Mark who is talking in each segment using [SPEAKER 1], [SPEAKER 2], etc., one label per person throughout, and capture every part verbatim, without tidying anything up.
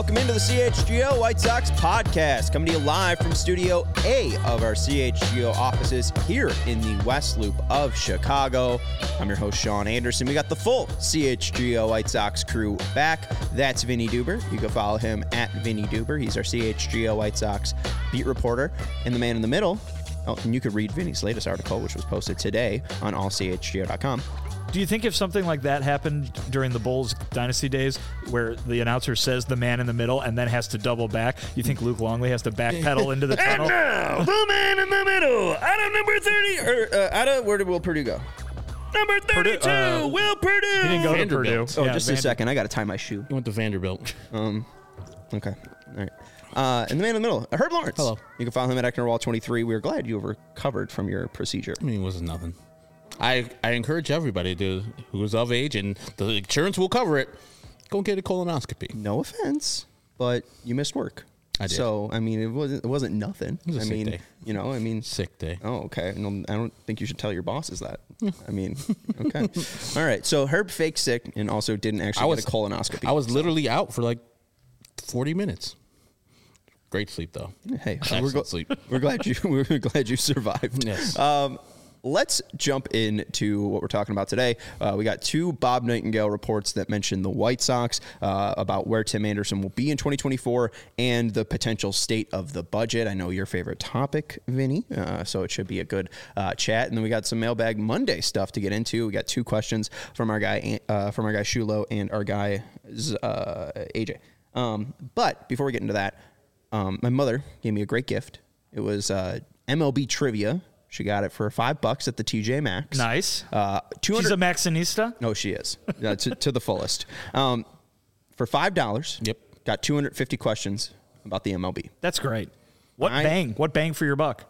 [SPEAKER 1] welcome into the C H G O White Sox podcast, coming to you live from Studio A of our C H G O offices here in the West Loop of Chicago. I'm your host, Sean Anderson. We got the full C H G O White Sox crew back. That's Vinny Duber. You can follow him at Vinny Duber. He's our C H G O White Sox beat reporter. And the man in the middle, oh, and you could read Vinny's latest article, which was posted today on all c h g o dot com.
[SPEAKER 2] Do you think if something like that happened during the Bulls dynasty days where the announcer says the man in the middle and then has to double back, you think Luke Longley has to backpedal into the tunnel?
[SPEAKER 1] And now, the man in the middle, out of number thirty, or uh, out of, where did Will Purdue go? Number thirty-two,
[SPEAKER 2] Purdue, uh,
[SPEAKER 1] Will Purdue.
[SPEAKER 2] He didn't go
[SPEAKER 3] Vanderbilt.
[SPEAKER 2] to Purdue.
[SPEAKER 1] Oh,
[SPEAKER 2] Yeah,
[SPEAKER 1] just
[SPEAKER 2] Vander-
[SPEAKER 1] a second. I got to tie my shoe.
[SPEAKER 3] He went to Vanderbilt.
[SPEAKER 1] Um, okay. All right. Uh, and the man in the middle, Herb Lawrence.
[SPEAKER 3] Hello.
[SPEAKER 1] You can follow him at Eckner twenty-three. We are glad you recovered from your procedure.
[SPEAKER 3] I mean, it wasn't nothing. I, I encourage everybody to who is of age, and the insurance will cover it, go get a colonoscopy.
[SPEAKER 1] No offense, but you missed work.
[SPEAKER 3] I did.
[SPEAKER 1] So, I mean, it wasn't it wasn't nothing.
[SPEAKER 3] It was a
[SPEAKER 1] I
[SPEAKER 3] sick
[SPEAKER 1] mean,
[SPEAKER 3] day.
[SPEAKER 1] you know, I mean,
[SPEAKER 3] Sick day.
[SPEAKER 1] Oh, okay. No, I don't think you should tell your bosses that. I mean, okay. All right. So Herb faked sick and also didn't actually
[SPEAKER 3] I was
[SPEAKER 1] get a colonoscopy.
[SPEAKER 3] I was literally out for like forty minutes. Great sleep though.
[SPEAKER 1] Hey,
[SPEAKER 3] Excellent
[SPEAKER 1] we're, gl-
[SPEAKER 3] sleep.
[SPEAKER 1] we're glad you we're glad you survived.
[SPEAKER 3] Yes.
[SPEAKER 1] Um, let's jump into what we're talking about today. Uh, we got two Bob Nightingale reports that mention the White Sox uh, about where Tim Anderson will be in twenty twenty-four and the potential state of the budget. I know your favorite topic, Vinny, uh, so it should be a good uh, chat. And then we got some Mailbag Monday stuff to get into. We got two questions from our guy uh, from our guy Shulo and our guy uh, A J. Um, but before we get into that. Um, my mother gave me a great gift. It was uh, M L B trivia. She got it for five bucks at the T J Maxx.
[SPEAKER 2] Nice.
[SPEAKER 1] Uh, two hundred
[SPEAKER 2] She's a Maxinista?
[SPEAKER 1] No, she is uh, to, to the fullest. Um, for five dollars.
[SPEAKER 3] Yep.
[SPEAKER 1] Got two hundred fifty questions about the M L B.
[SPEAKER 2] That's great. What
[SPEAKER 1] I-
[SPEAKER 2] bang? What bang for your buck?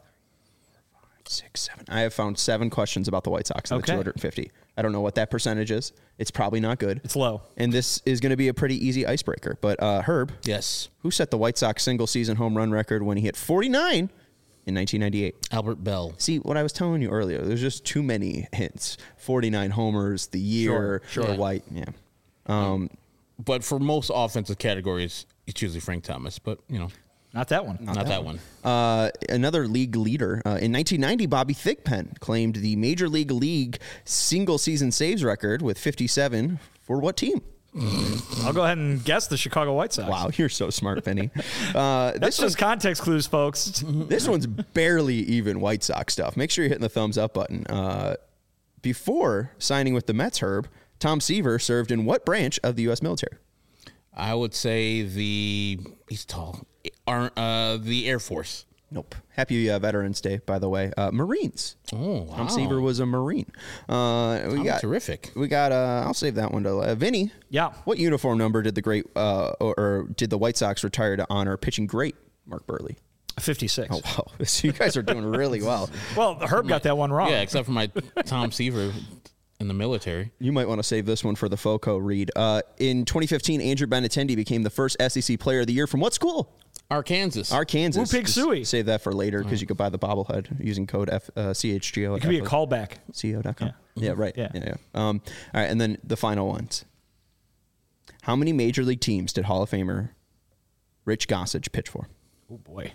[SPEAKER 1] Six, seven. I have found seven questions about the White Sox in
[SPEAKER 2] Okay.
[SPEAKER 1] the two hundred fifty. I don't know what that percentage is. It's probably not good.
[SPEAKER 2] It's low.
[SPEAKER 1] And this is going to be a pretty easy icebreaker. But uh, Herb,
[SPEAKER 3] Yes.
[SPEAKER 1] who set the White Sox single season home run record when he hit forty-nine in nineteen ninety-eight?
[SPEAKER 3] Albert Bell.
[SPEAKER 1] See, what I was telling you earlier, there's just too many hints. forty-nine homers, the year,
[SPEAKER 3] Sure,
[SPEAKER 1] the
[SPEAKER 3] sure.
[SPEAKER 1] White. Yeah. Um,
[SPEAKER 3] But for most offensive categories, it's usually Frank Thomas. But you know,
[SPEAKER 2] Not that one.
[SPEAKER 3] not, that, one.
[SPEAKER 1] uh, another league leader. Uh, in nineteen ninety, Bobby Thigpen claimed the Major League League single season saves record with fifty-seven for what team?
[SPEAKER 2] I'll go ahead and guess the Chicago White Sox.
[SPEAKER 1] Wow, you're so smart, Penny. Uh,
[SPEAKER 2] That's
[SPEAKER 1] this,
[SPEAKER 2] just context clues, folks.
[SPEAKER 1] this one's barely even White Sox stuff. Make sure you're hitting the thumbs up button. Uh, before signing with the Mets, Herb, Tom Seaver served in what branch of the U S military?
[SPEAKER 3] I would say the he's tall. Ar- Uh, the Air Force.
[SPEAKER 1] Nope. Happy uh, Veterans Day, by the way. Uh, Marines.
[SPEAKER 3] Oh, wow.
[SPEAKER 1] Tom Seaver was a Marine. Uh, we
[SPEAKER 3] Tom,
[SPEAKER 1] got
[SPEAKER 3] terrific.
[SPEAKER 1] We got. Uh, I'll save that one to uh, Vinny.
[SPEAKER 2] Yeah.
[SPEAKER 1] What uniform number did the great uh, or, or did the White Sox retire to honor pitching great Mark Burley?
[SPEAKER 2] fifty-six.
[SPEAKER 1] Oh wow, so you guys are doing really well.
[SPEAKER 2] Well, Herb got that one wrong.
[SPEAKER 3] Yeah, except for my Tom Seaver in the military.
[SPEAKER 1] You might want to save this one for the FOCO read. Uh, in twenty fifteen, Andrew Benintendi became the first S E C Player of the Year from what school?
[SPEAKER 3] Arkansas.
[SPEAKER 1] Arkansas.
[SPEAKER 2] Woo Pig
[SPEAKER 1] Just
[SPEAKER 2] Suey.
[SPEAKER 1] Save that for later because you could buy the bobblehead using code F, uh, C H G O.
[SPEAKER 2] It could be a callback.
[SPEAKER 1] C O dot com.
[SPEAKER 2] Yeah.
[SPEAKER 1] Yeah, right.
[SPEAKER 2] Yeah.
[SPEAKER 1] Yeah. yeah. Um, all right, and then the final ones. How many major league teams did Hall of Famer Rich Gossage pitch for?
[SPEAKER 2] Oh, boy.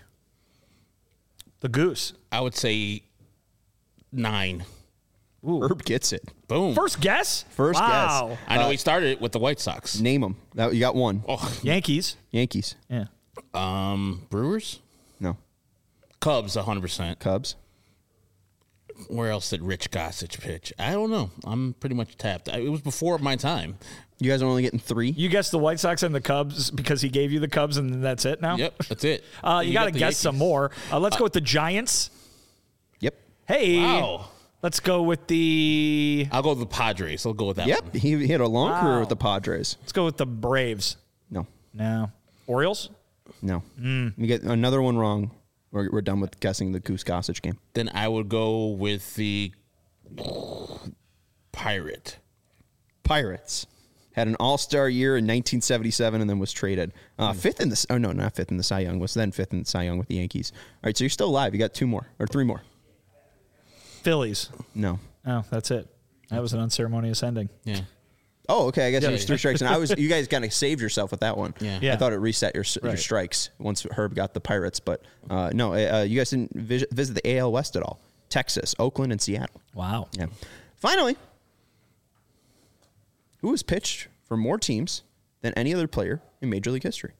[SPEAKER 2] The Goose.
[SPEAKER 3] I would say nine.
[SPEAKER 2] Ooh.
[SPEAKER 1] Herb gets it.
[SPEAKER 3] Boom.
[SPEAKER 2] First guess?
[SPEAKER 1] First
[SPEAKER 2] wow.
[SPEAKER 1] guess.
[SPEAKER 3] I know
[SPEAKER 1] Uh,
[SPEAKER 3] he started it with the White Sox.
[SPEAKER 1] Name them. That, you got one.
[SPEAKER 3] Oh,
[SPEAKER 2] Yankees.
[SPEAKER 1] Yankees.
[SPEAKER 2] Yeah.
[SPEAKER 3] um, Brewers,
[SPEAKER 1] No.
[SPEAKER 3] Cubs, one hundred percent.
[SPEAKER 1] Cubs.
[SPEAKER 3] Where else did Rich Gossage pitch? I don't know. I'm pretty much tapped. I- It was before my time.
[SPEAKER 1] You guys are only getting three.
[SPEAKER 2] You guessed the White Sox and the Cubs because he gave you the Cubs, and then that's it now?
[SPEAKER 3] Yep, that's it.
[SPEAKER 2] Uh, you got to
[SPEAKER 3] the
[SPEAKER 2] guess some
[SPEAKER 3] Yankees.
[SPEAKER 2] more. Uh, let's go with the Giants.
[SPEAKER 1] Yep.
[SPEAKER 2] Hey.
[SPEAKER 3] Wow.
[SPEAKER 2] Let's go with the.
[SPEAKER 3] I'll go with the Padres. I'll go with that
[SPEAKER 1] Yep.
[SPEAKER 3] one.
[SPEAKER 1] He, he had a long
[SPEAKER 2] Wow.
[SPEAKER 1] career with the Padres.
[SPEAKER 2] Let's go with the Braves.
[SPEAKER 1] No.
[SPEAKER 2] No. Orioles?
[SPEAKER 1] No.
[SPEAKER 2] Mm.
[SPEAKER 1] You get another one wrong. We're, we're done with guessing the Goose Gossage game.
[SPEAKER 3] Then I would go with the Pirate.
[SPEAKER 1] Pirates had an all-star year in nineteen seventy-seven and then was traded. Uh, fifth in the oh no, not fifth in the Cy Young. Was then fifth in the Cy Young with the Yankees. All right, so you're still alive. You got two more or three more.
[SPEAKER 2] Phillies.
[SPEAKER 1] No.
[SPEAKER 2] Oh, that's it. That was an unceremonious ending.
[SPEAKER 3] Yeah.
[SPEAKER 1] Oh, okay. I guess
[SPEAKER 2] Yeah.
[SPEAKER 1] it was three strikes, and I was. You guys kind of saved yourself with that one.
[SPEAKER 3] Yeah.
[SPEAKER 2] Yeah.
[SPEAKER 1] I thought it reset your your
[SPEAKER 2] Right.
[SPEAKER 1] strikes once Herb got the Pirates, but uh, no, uh, you guys didn't visit, visit the A L West at all. Texas, Oakland, and Seattle.
[SPEAKER 2] Wow.
[SPEAKER 1] Yeah. Finally, who has pitched for more teams than any other player in Major League history?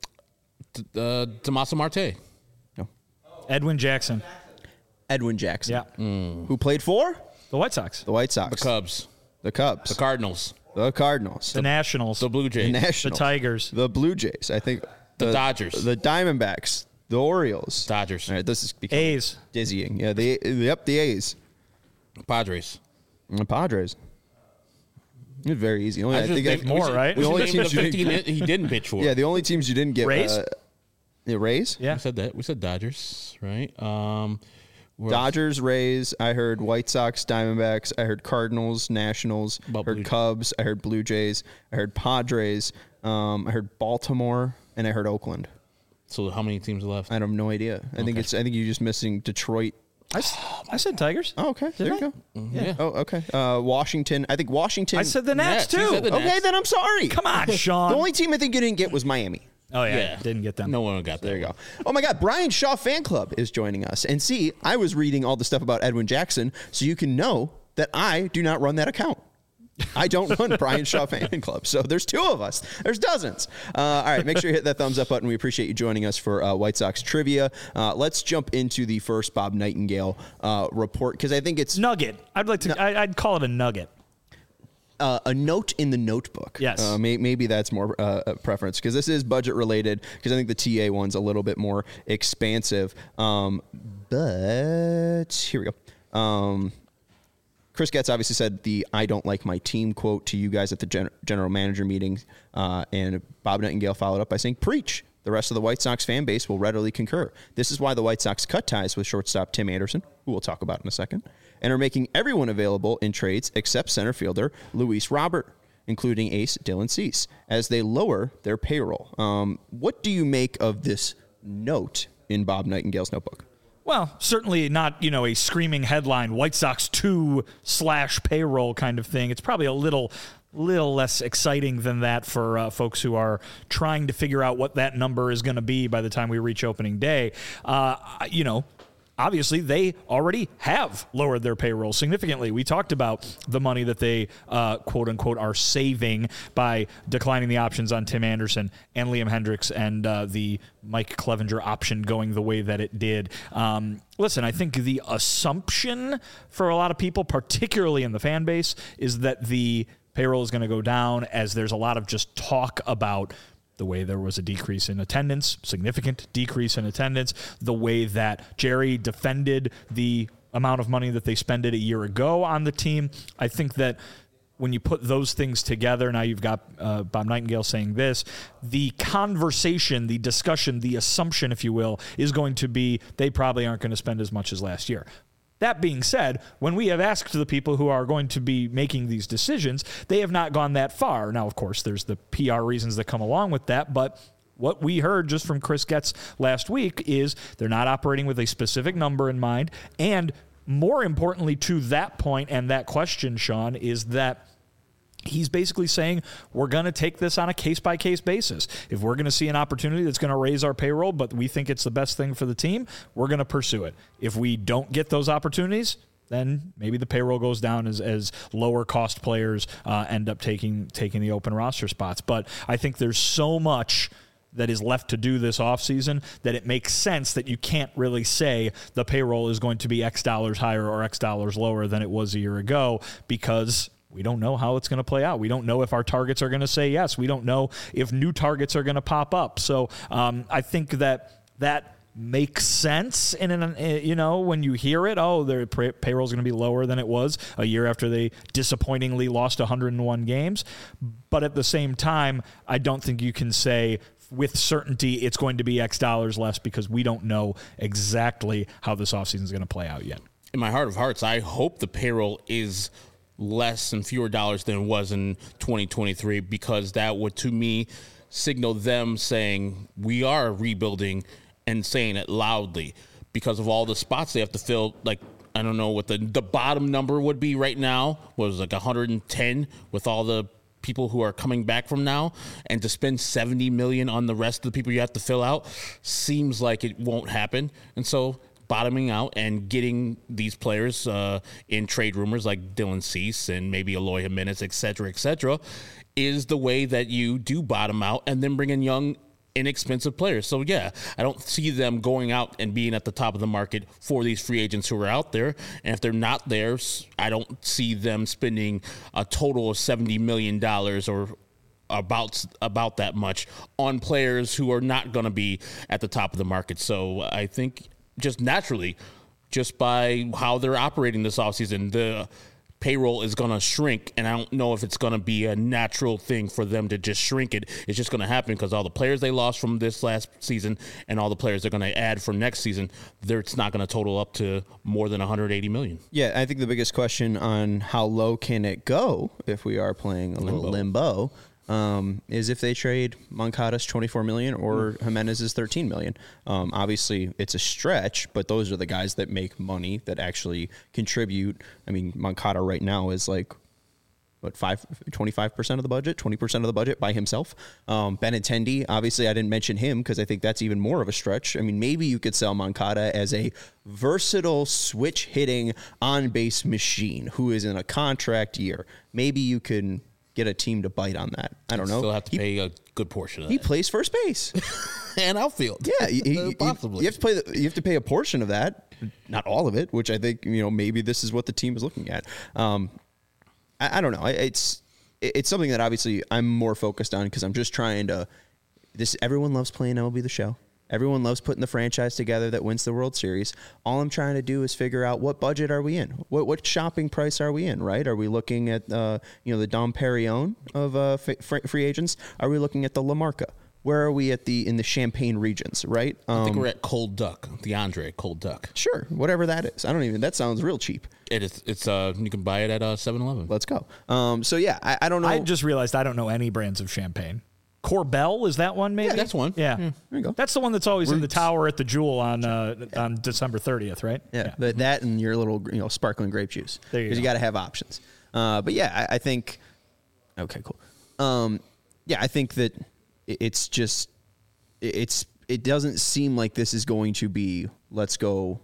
[SPEAKER 3] Uh, Tommaso Marte.
[SPEAKER 1] No.
[SPEAKER 2] Edwin Jackson.
[SPEAKER 1] Edwin Jackson.
[SPEAKER 2] Yeah.
[SPEAKER 1] Who played for
[SPEAKER 2] The White Sox.
[SPEAKER 1] the White Sox,
[SPEAKER 3] The Cubs.
[SPEAKER 1] the Cubs,
[SPEAKER 3] The Cardinals.
[SPEAKER 1] the Cardinals,
[SPEAKER 2] The Nationals.
[SPEAKER 3] The Blue
[SPEAKER 1] the
[SPEAKER 3] Jays.
[SPEAKER 1] Nationals,
[SPEAKER 2] The Tigers.
[SPEAKER 1] the Blue Jays. I think
[SPEAKER 3] The Dodgers.
[SPEAKER 1] the Diamondbacks, the Orioles,
[SPEAKER 3] Dodgers.
[SPEAKER 1] All right, this is becoming
[SPEAKER 2] A's.
[SPEAKER 1] dizzying. Yeah, the yep, the A's,
[SPEAKER 3] Padres.
[SPEAKER 1] and the Padres. It's very easy. Only, I,
[SPEAKER 3] I just
[SPEAKER 1] think
[SPEAKER 3] think
[SPEAKER 1] I-
[SPEAKER 2] more,
[SPEAKER 3] we should-
[SPEAKER 2] right?
[SPEAKER 3] We
[SPEAKER 1] The only
[SPEAKER 3] should name the
[SPEAKER 1] teams you
[SPEAKER 3] fifteen that he didn't pitch for.
[SPEAKER 1] yeah, the only teams you didn't get
[SPEAKER 2] Rays?
[SPEAKER 1] Uh, the Rays,
[SPEAKER 2] Yeah.
[SPEAKER 3] We said that. We said Dodgers, right? Um, where else?
[SPEAKER 1] Dodgers, Rays. I heard White Sox, Diamondbacks. I heard Cardinals, Nationals.
[SPEAKER 3] About
[SPEAKER 1] heard
[SPEAKER 3] Blue-
[SPEAKER 1] Cubs. I heard Blue Jays. I heard Padres. Um, I heard Baltimore, and I heard Oakland.
[SPEAKER 3] So how many teams are left?
[SPEAKER 1] I have no idea. I think
[SPEAKER 3] Okay.
[SPEAKER 1] it's. I think you're just missing Detroit.
[SPEAKER 2] I, s- I said Tigers.
[SPEAKER 1] Oh, okay.
[SPEAKER 2] Did
[SPEAKER 1] there
[SPEAKER 2] I?
[SPEAKER 1] you go.
[SPEAKER 3] Yeah.
[SPEAKER 1] Oh, okay. Uh, Washington. I think Washington.
[SPEAKER 2] I said the Nats,
[SPEAKER 3] Nats. You
[SPEAKER 2] too.
[SPEAKER 3] said the Nats.
[SPEAKER 1] Okay, then I'm sorry.
[SPEAKER 2] Come on, Sean.
[SPEAKER 1] The only team I think you didn't get was Miami.
[SPEAKER 2] oh, yeah,
[SPEAKER 3] Yeah.
[SPEAKER 2] Didn't get them.
[SPEAKER 3] No one got that.
[SPEAKER 1] There you go. Oh my God, Brian Shaw Fan Club is joining us. And see, I was reading all the stuff about Edwin Jackson, so you can know that I do not run that account. I don't run Brian Shaw Fan Club. So there's two of us. There's dozens. Uh, all right, make sure you hit that thumbs up button. We appreciate you joining us for uh, White Sox trivia. Uh, let's jump into the first Bob Nightingale uh, report because I think it's
[SPEAKER 2] Nugget. I'd like to. I, I'd call it a nugget.
[SPEAKER 1] uh, a note in the notebook.
[SPEAKER 2] Yes.
[SPEAKER 1] Uh, may, maybe that's more uh, a preference because this is budget related because I think the T A one's a little bit more expansive. Um, but here we go. Um, Chris Getz obviously said the "I don't like my team" quote to you guys at the gen- general manager meeting, uh, and Bob Nightingale followed up by saying, "Preach." The rest of the White Sox fan base will readily concur. This is why the White Sox cut ties with shortstop Tim Anderson, who we'll talk about in a second, and are making everyone available in trades except center fielder Luis Robert, including ace Dylan Cease, as they lower their payroll. Um, what do you make of this note in Bob Nightingale's notebook?
[SPEAKER 2] Well, certainly not, you know, a screaming headline, White Sox two slash payroll kind of thing. It's probably a little little less exciting than that for uh, folks who are trying to figure out what that number is going to be by the time we reach opening day. Uh, you know, obviously, they already have lowered their payroll significantly. We talked about the money that they, uh, quote unquote, are saving by declining the options on Tim Anderson and Liam Hendricks and uh, the Mike Clevenger option going the way that it did. Um, listen, I think the assumption for a lot of people, particularly in the fan base, is that the payroll is going to go down as there's a lot of just talk about the way there was a decrease in attendance, significant decrease in attendance, the way that Jerry defended the amount of money that they spent a year ago on the team. I think that when you put those things together, now you've got uh, Bob Nightingale saying this, the conversation, the discussion, the assumption, if you will, is going to be they probably aren't going to spend as much as last year. That being said, when we have asked the people who are going to be making these decisions, they have not gone that far. Now, of course, there's the P R reasons that come along with that, but what we heard just from Chris Getz last week is they're not operating with a specific number in mind. And more importantly to that point and that question, Sean, is that he's basically saying we're going to take this on a case-by-case basis. If we're going to see an opportunity that's going to raise our payroll, but we think it's the best thing for the team, we're going to pursue it. If we don't get those opportunities, then maybe the payroll goes down as, as lower-cost players uh, end up taking taking the open roster spots. But I think there's so much that is left to do this offseason that it makes sense that you can't really say the payroll is going to be X dollars higher or X dollars lower than it was a year ago because we don't know how it's going to play out. We don't know if our targets are going to say yes. We don't know if new targets are going to pop up. So um, I think that that makes sense. And, in an, you know, when you hear it, oh, their pay- payroll is going to be lower than it was a year after they disappointingly lost one hundred one games. But at the same time, I don't think you can say with certainty it's going to be X dollars less because we don't know exactly how this offseason is going to play out yet.
[SPEAKER 3] In my heart of hearts, I hope the payroll is less and fewer dollars than it was in twenty twenty-three because that would, to me, signal them saying we are rebuilding and saying it loudly because of all the spots they have to fill. Like, I don't know what the, the bottom number would be right now. Was like one hundred ten with all the people who are coming back from now, and to spend seventy million dollars on the rest of the people you have to fill out seems like it won't happen. And so bottoming out and getting these players uh, in trade rumors like Dylan Cease and maybe Eloy Jimenez, et cetera, et cetera, is the way that you do bottom out and then bring in young, inexpensive players. So, yeah, I don't see them going out and being at the top of the market for these free agents who are out there. And if they're not there, I don't see them spending a total of seventy million dollars or about about that much on players who are not going to be at the top of the market. So I think just naturally, just by how they're operating this offseason, the payroll is going to shrink, and I don't know if it's going to be a natural thing for them to just shrink it. It's just going to happen because all the players they lost from this last season and all the players they're going to add for next season, it's not going to total up to more than one hundred eighty million dollars.
[SPEAKER 1] Yeah, I think the biggest question on how low can it go if we are playing a little limbo, um, is if they trade Moncada's twenty-four million dollars or Jimenez's thirteen million dollars. Um, obviously, it's a stretch, but those are the guys that make money that actually contribute. I mean, Moncada right now is like, what, five, twenty-five percent of the budget, twenty percent of the budget by himself. Um, Benintendi, obviously, I didn't mention him because I think that's even more of a stretch. I mean, maybe you could sell Moncada as a versatile switch-hitting on-base machine who is in a contract year. Maybe you can get a team to bite on that. I don't know.
[SPEAKER 3] Still have to
[SPEAKER 1] he,
[SPEAKER 3] pay a good portion of
[SPEAKER 1] he
[SPEAKER 3] that.
[SPEAKER 1] He plays first base
[SPEAKER 3] and outfield.
[SPEAKER 1] Yeah, he, he,
[SPEAKER 3] possibly.
[SPEAKER 1] You have to play. The, you have to pay a portion of that, not all of it. Which I think you know maybe this is what the team is looking at. Um, I, I don't know. It's it's something that obviously I'm more focused on because I'm just trying to. This everyone loves playing M L B The Show. Everyone loves putting the franchise together that wins the World Series. All I'm trying to do is figure out what budget are we in? What what shopping price are we in, right? Are we looking at uh, you know the Dom Perignon of uh, f- free agents? Are we looking at the LaMarca? Where are we at the in the Champagne regions, right? Um,
[SPEAKER 3] I think we're at Cold Duck, the Andre Cold Duck.
[SPEAKER 1] Sure, whatever that is. I don't even. That sounds real cheap.
[SPEAKER 3] It is. It's uh. You can buy it at uh seven eleven.
[SPEAKER 1] Let's go. Um. So yeah, I, I don't know.
[SPEAKER 2] I just realized I don't know any brands of champagne. Corbel, is that one maybe?
[SPEAKER 3] Yeah, that's one.
[SPEAKER 2] Yeah.
[SPEAKER 1] yeah. There you go.
[SPEAKER 2] That's the one that's always Roots. in the tower at the Jewel on uh, on December thirtieth, right?
[SPEAKER 1] Yeah, yeah. But that and your little you know sparkling grape juice.
[SPEAKER 2] There you go.
[SPEAKER 1] Because you got to have options. Uh, but yeah, I, I think. Okay, cool. Um, yeah, I think that it's just it's it doesn't seem like this is going to be let's go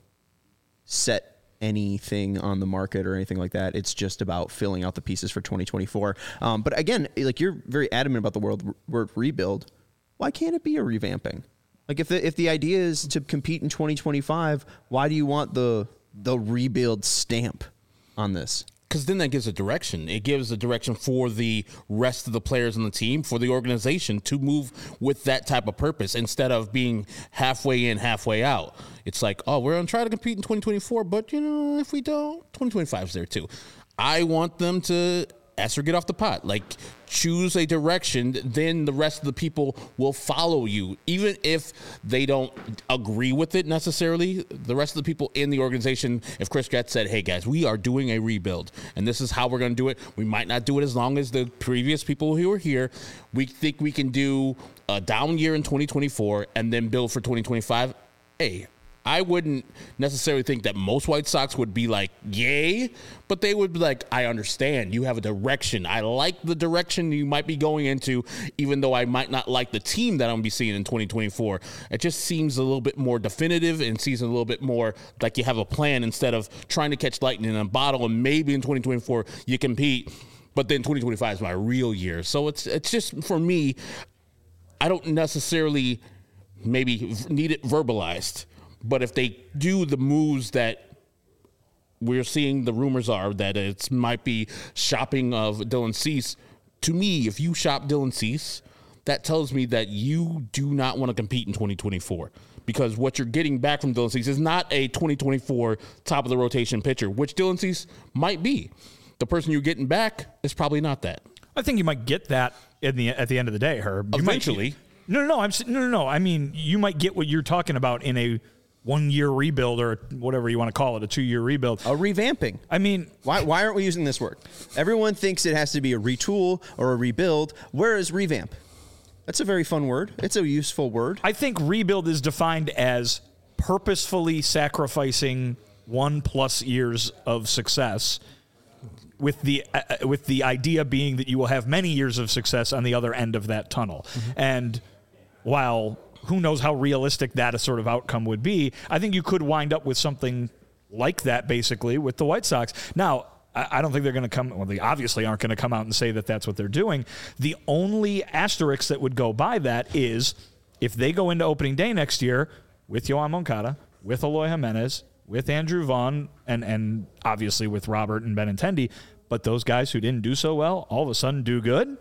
[SPEAKER 1] set anything on the market or anything like that. It's just about filling out the pieces for twenty twenty-four. Um, but again, like you're very adamant about the word, word rebuild. Why can't it be a revamping? Like if the if the idea is to compete in twenty twenty-five, why do you want the the rebuild stamp on this?
[SPEAKER 3] Because then that gives a direction. It gives a direction for the rest of the players on the team, for the organization to move with that type of purpose instead of being halfway in, halfway out. It's like, oh, we're going to try to compete in twenty twenty-four, but, you know, if we don't, twenty twenty-five is there too. I want them to ask or get off the pot. Like, choose a direction, then the rest of the people will follow you. Even if they don't agree with it necessarily, the rest of the people in the organization, if Chris Getz said, hey guys, we are doing a rebuild and this is how we're going to do it. We might not do it as long as the previous people who were here. We think we can do a down year in twenty twenty-four and then build for twenty twenty-five. Hey, I wouldn't necessarily think that most White Sox would be like, yay, but they would be like, I understand. You have a direction. I like the direction you might be going into, even though I might not like the team that I'm going to be seeing in twenty twenty-four. It just seems a little bit more definitive and seems a little bit more like you have a plan instead of trying to catch lightning in a bottle and maybe in twenty twenty-four you compete, but then twenty twenty-five is my real year. So it's it's just, for me, I don't necessarily maybe need it verbalized. But if they do the moves that we're seeing, the rumors are that it might be shopping of Dylan Cease. To me, if you shop Dylan Cease, that tells me that you do not want to compete in twenty twenty-four. Because what you're getting back from Dylan Cease is not a twenty twenty-four top of the rotation pitcher, which Dylan Cease might be. The person you're getting back is probably not that.
[SPEAKER 2] I think you might get that in the at the end of the day, Herb. You
[SPEAKER 3] Eventually.
[SPEAKER 2] Might, no, no, no. I'm no, no, no. I mean, you might get what you're talking about in a one-year rebuild or whatever you want to call it, a two-year rebuild.
[SPEAKER 1] A revamping.
[SPEAKER 2] I mean,
[SPEAKER 1] why why aren't we using this word? Everyone thinks it has to be a retool or a rebuild. Where is revamp? That's a very fun word. It's a useful word.
[SPEAKER 2] I think rebuild is defined as purposefully sacrificing one plus years of success with the uh, with the idea being that you will have many years of success on the other end of that tunnel. Mm-hmm. And while who knows how realistic that a sort of outcome would be, I think you could wind up with something like that, basically, with the White Sox. Now, I don't think they're going to come, well, they obviously aren't going to come out and say that that's what they're doing. The only asterisk that would go by that is if they go into opening day next year with Yoan Moncada, with Eloy Jimenez, with Andrew Vaughn, and, and obviously with Robert and Benintendi, but those guys who didn't do so well all of a sudden do good,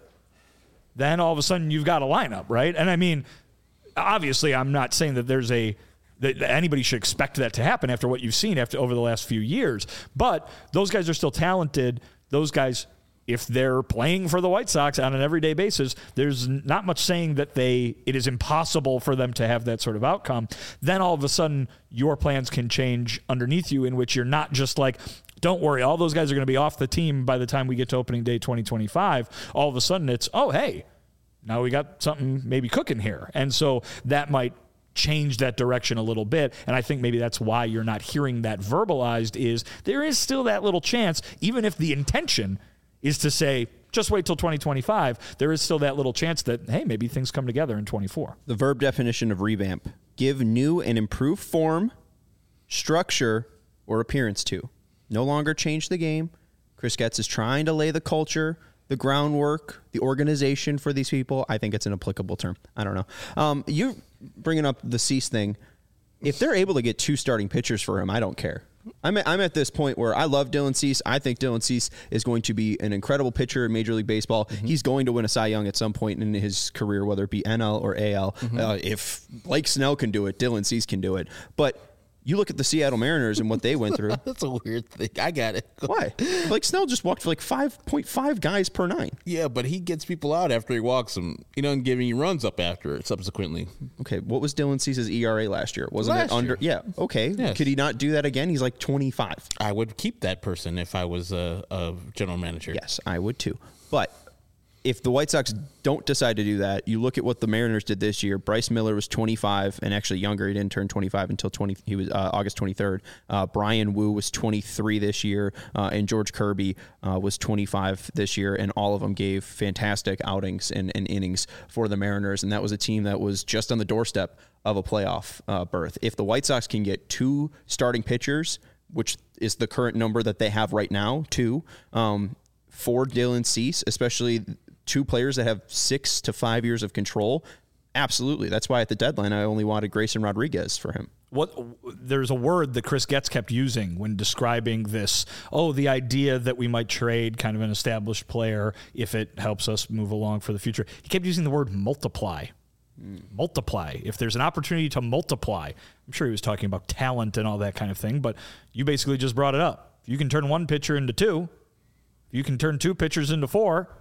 [SPEAKER 2] then all of a sudden you've got a lineup, right? And I mean, obviously I'm not saying that there's a that anybody should expect that to happen after what you've seen after over the last few years. But those guys are still talented. Those guys, if they're playing for the White Sox on an everyday basis, there's not much saying that they it is impossible for them to have that sort of outcome. Then all of a sudden, your plans can change underneath you, in which you're not just like, don't worry, all those guys are going to be off the team by the time we get to opening day twenty twenty-five. All of a sudden, it's, oh, hey, now we got something maybe cooking here. And so that might change that direction a little bit, and I think maybe that's why you're not hearing that verbalized, is there is still that little chance, even if the intention is to say, just wait till twenty twenty-five, there is still that little chance that, hey, maybe things come together in twenty-four.
[SPEAKER 1] The verb definition of revamp: give new and improved form, structure, or appearance to. No longer change the game. Chris Getz is trying to lay the culture, the groundwork, the organization for these people. I think it's an applicable term. I don't know. Um, you bringing up the Cease thing. If they're able to get two starting pitchers for him, I don't care. I'm at, I'm at this point where I love Dylan Cease. I think Dylan Cease is going to be an incredible pitcher in Major League Baseball. Mm-hmm. He's going to win a Cy Young at some point in his career, whether it be N L or A L. Mm-hmm. Uh, if Blake Snell can do it, Dylan Cease can do it. But you look at the Seattle Mariners and what they went through.
[SPEAKER 3] That's a weird thing. I got it.
[SPEAKER 1] Why? Like Snell just walked for like five point five guys per nine.
[SPEAKER 3] Yeah, but he gets people out after he walks them. He doesn't give any runs up after it subsequently.
[SPEAKER 1] Okay, what was Dylan Cease's E R A last year? Wasn't
[SPEAKER 3] last
[SPEAKER 1] it under?
[SPEAKER 3] Year.
[SPEAKER 1] Yeah, okay.
[SPEAKER 3] Yes.
[SPEAKER 1] Could he not do that again? He's like twenty-five.
[SPEAKER 3] I would keep that person if I was a, a general manager.
[SPEAKER 1] Yes, I would too. But if the White Sox don't decide to do that, you look at what the Mariners did this year. Bryce Miller was twenty-five and actually younger. He didn't turn twenty-five until twenty. He was uh, August twenty-third. Uh, Brian Wu was twenty-three this year, uh, and George Kirby uh, was twenty-five this year, and all of them gave fantastic outings and, and innings for the Mariners, and that was a team that was just on the doorstep of a playoff uh, berth. If the White Sox can get two starting pitchers, which is the current number that they have right now, two, um, for Dylan Cease, especially two players that have six to five years of control, absolutely. That's why at the deadline I only wanted Grayson Rodriguez for him.
[SPEAKER 2] What there's a word that Chris Getz kept using when describing this. Oh, the idea that we might trade kind of an established player if it helps us move along for the future. He kept using the word multiply. Mm. Multiply. If there's an opportunity to multiply, I'm sure he was talking about talent and all that kind of thing, but you basically just brought it up. If you can turn one pitcher into two, if you can turn two pitchers into four,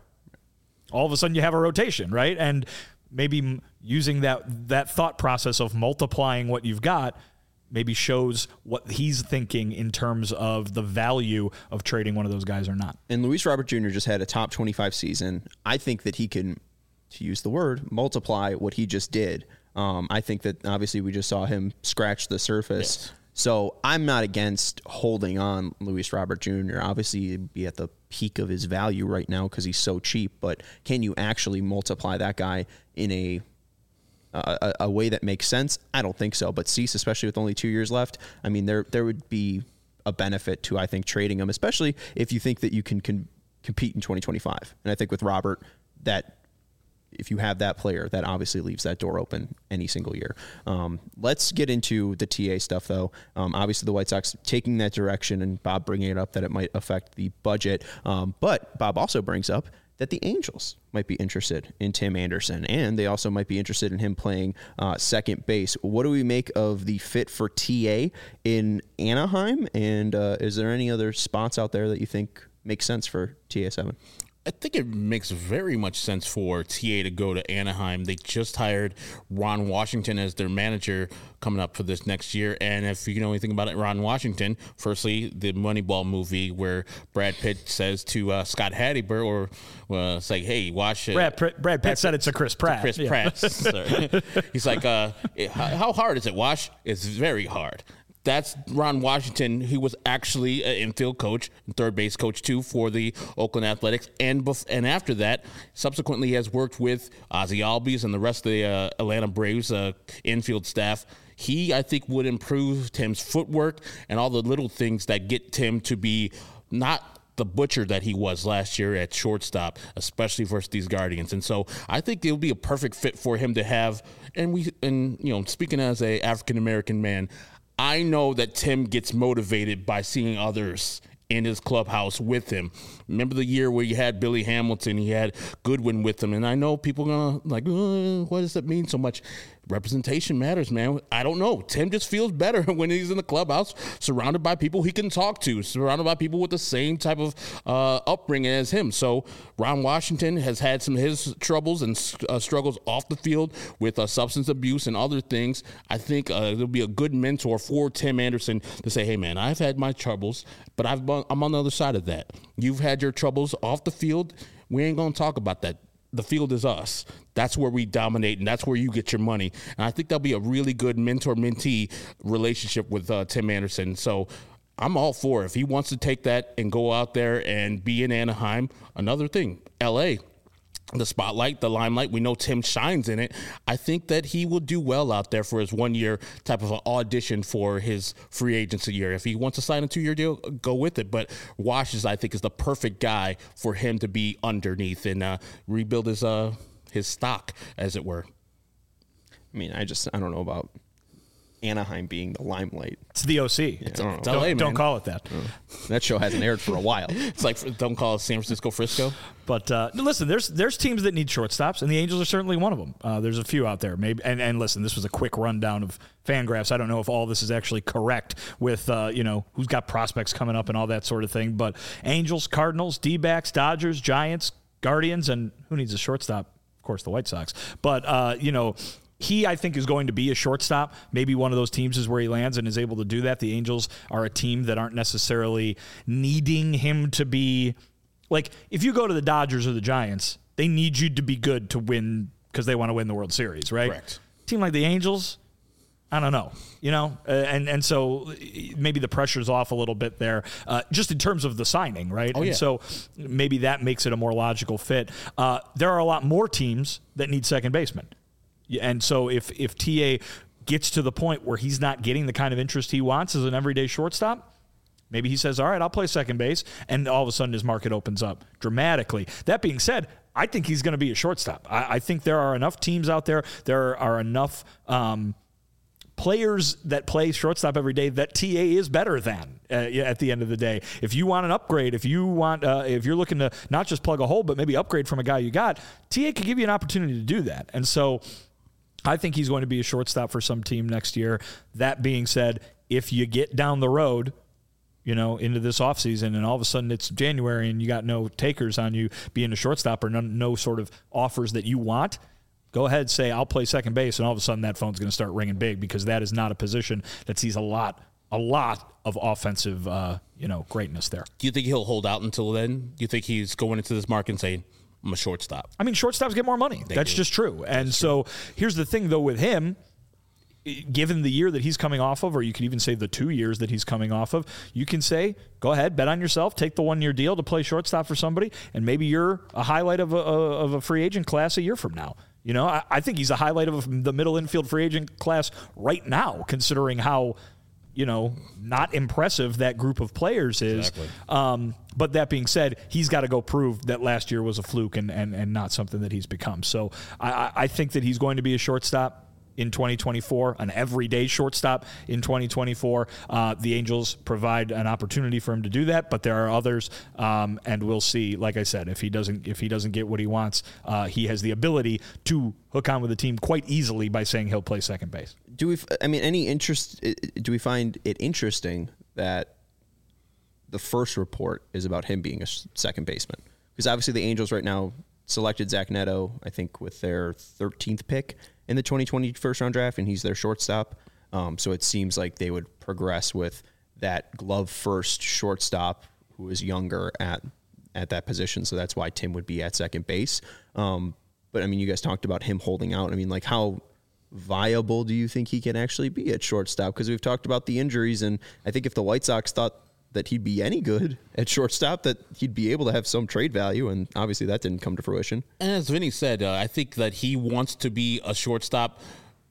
[SPEAKER 2] all of a sudden you have a rotation, right? And maybe using that that thought process of multiplying what you've got maybe shows what he's thinking in terms of the value of trading one of those guys or not.
[SPEAKER 1] And Luis Robert Junior just had a top twenty-five season. I think that he can, to use the word, multiply what he just did. Um, I think that obviously we just saw him scratch the surface. Yes. So I'm not against holding on Luis Robert Junior Obviously, he'd be at the peak of his value right now because he's so cheap. But can you actually multiply that guy in a, a a way that makes sense? I don't think so. But Cease, especially with only two years left, I mean, there there would be a benefit to, I think, trading him, especially if you think that you can, can compete in twenty twenty-five. And I think with Robert, that if you have that player, that obviously leaves that door open any single year. Um, let's get into the T A stuff, though. Um, obviously, the White Sox taking that direction, and Bob bringing it up that it might affect the budget. Um, but Bob also brings up that the Angels might be interested in Tim Anderson, and they also might be interested in him playing uh, second base. What do we make of the fit for T A in Anaheim? And uh, is there any other spots out there that you think make sense for T A seven?
[SPEAKER 3] I think it makes very much sense for T A to go to Anaheim. They just hired Ron Washington as their manager coming up for this next year. And if you know anything about it, Ron Washington, firstly, the Moneyball movie where Brad Pitt says to uh, Scott Hatteberg, or uh, it's like, hey, watch it.
[SPEAKER 2] Brad, Brad, Brad Pitt said it's a Chris Pratt.
[SPEAKER 3] Chris yeah. Pratt. He's like, uh, how hard is it, Wash? It's very hard. that's Ron Washington, who was actually an infield coach and third base coach too for the Oakland Athletics, and bef- and after that, subsequently has worked with Ozzie Albies and the rest of the uh, Atlanta Braves uh, infield staff. He, I think, would improve Tim's footwork and all the little things that get Tim to be not the butcher that he was last year at shortstop, especially versus these Guardians. And so I think it would be a perfect fit for him to have. And we, and you know, speaking as a African American man, I know that Tim gets motivated by seeing others in his clubhouse with him. Remember the year where you had Billy Hamilton, he had Goodwin with him, and I know people are gonna like, oh, what does that mean so much? Representation matters, man. I don't know. Tim just feels better when he's in the clubhouse, surrounded by people he can talk to, surrounded by people with the same type of uh, upbringing as him. So Ron Washington has had some of his troubles and uh, struggles off the field with uh, substance abuse and other things. I think uh, it'll be a good mentor for Tim Anderson to say, hey, man, I've had my troubles, but I've, I'm on the other side of that. You've had your troubles off the field. We ain't going to talk about that. The field is us. That's where we dominate, and that's where you get your money. And I think that'll be a really good mentor-mentee relationship with uh, Tim Anderson. So I'm all for it. If he wants to take that and go out there and be in Anaheim, another thing, L A, the spotlight, the limelight, we know Tim shines in it. I think that he will do well out there for his one-year type of an audition for his free agency year. If he wants to sign a two-year deal, go with it. But Washes, I think, is the perfect guy for him to be underneath and uh, rebuild his uh, his stock, as it were.
[SPEAKER 1] I mean, I just, I don't know about Anaheim being the limelight.
[SPEAKER 2] It's the O C.
[SPEAKER 1] Yeah,
[SPEAKER 2] it's,
[SPEAKER 1] I don't know.
[SPEAKER 2] don't,
[SPEAKER 3] L A,
[SPEAKER 2] don't
[SPEAKER 3] man.
[SPEAKER 2] call it that.
[SPEAKER 1] Oh. That show hasn't aired for a while.
[SPEAKER 3] It's like, don't call it San Francisco Frisco.
[SPEAKER 2] But uh, listen, there's there's teams that need shortstops, and the Angels are certainly one of them. Uh, there's a few out there, maybe. And, and listen, this was a quick rundown of Fangraphs. I don't know if all this is actually correct with uh, you know who's got prospects coming up and all that sort of thing. But Angels, Cardinals, D-backs, Dodgers, Giants, Guardians, and who needs a shortstop? Of course, the White Sox. But uh, you know. He, I think, is going to be a shortstop. Maybe one of those teams is where he lands and is able to do that. The Angels are a team that aren't necessarily needing him to be like, if you go to the Dodgers or the Giants, they need you to be good to win because they want to win the World Series, right?
[SPEAKER 3] Correct.
[SPEAKER 2] A team like the Angels, I don't know, you know, uh, and and so maybe the pressure's off a little bit there, uh, just in terms of the signing, right?
[SPEAKER 3] Oh, yeah.
[SPEAKER 2] And so maybe that makes it a more logical fit. Uh, there are a lot more teams that need second basemen. And so if if T A gets to the point where he's not getting the kind of interest he wants as an everyday shortstop, maybe he says, all right, I'll play second base, and all of a sudden his market opens up dramatically. That being said, I think he's going to be a shortstop. I, I think there are enough teams out there, there are enough um, players that play shortstop every day that T A is better than uh, at the end of the day. If you want an upgrade, if you want, uh, if you're looking to not just plug a hole, but maybe upgrade from a guy you got, T A could give you an opportunity to do that. And so I think he's going to be a shortstop for some team next year. That being said, if you get down the road, you know, into this offseason and all of a sudden it's January and you got no takers on you being a shortstop or no, no sort of offers that you want, go ahead and say, I'll play second base, and all of a sudden that phone's going to start ringing big because that is not a position that sees a lot, a lot of offensive, uh, you know, greatness there.
[SPEAKER 3] Do you think he'll hold out until then? Do you think he's going into this market and saying, I'm a shortstop?
[SPEAKER 2] I mean, shortstops get more money.
[SPEAKER 3] They
[SPEAKER 2] That's
[SPEAKER 3] do.
[SPEAKER 2] just true. And
[SPEAKER 3] That's
[SPEAKER 2] so here's the thing, though, with him, given the year that he's coming off of, or you could even say the two years that he's coming off of, you can say, go ahead, bet on yourself, take the one-year deal to play shortstop for somebody, and maybe you're a highlight of a, of a free agent class a year from now. You know, I, I think he's a highlight of the middle infield free agent class right now, considering how, you know, not impressive that group of players is.
[SPEAKER 3] Exactly.
[SPEAKER 2] Um, but that being said, he's got to go prove that last year was a fluke and, and, and not something that he's become. So I, I think that he's going to be a shortstop in twenty twenty-four, an everyday shortstop in twenty twenty-four. Uh, the Angels provide an opportunity for him to do that, but there are others, um, and we'll see. Like I said, if he doesn't if he doesn't get what he wants, uh, he has the ability to hook on with the team quite easily by saying he'll play second base.
[SPEAKER 1] Do we? I mean, any interest? Do we find it interesting that the first report is about him being a second baseman? Because obviously the Angels right now selected Zach Neto, I think, with their thirteenth pick in the twenty twenty first round draft, and he's their shortstop. Um, so it seems like they would progress with that glove first shortstop who is younger at at that position. So that's why Tim would be at second base. Um, but I mean, you guys talked about him holding out. I mean, like how viable do you think he can actually be at shortstop? Because we've talked about the injuries, and I think if the White Sox thought that he'd be any good at shortstop, that he'd be able to have some trade value, and obviously that didn't come to fruition.
[SPEAKER 3] And as Vinny said, uh, I think that he wants to be a shortstop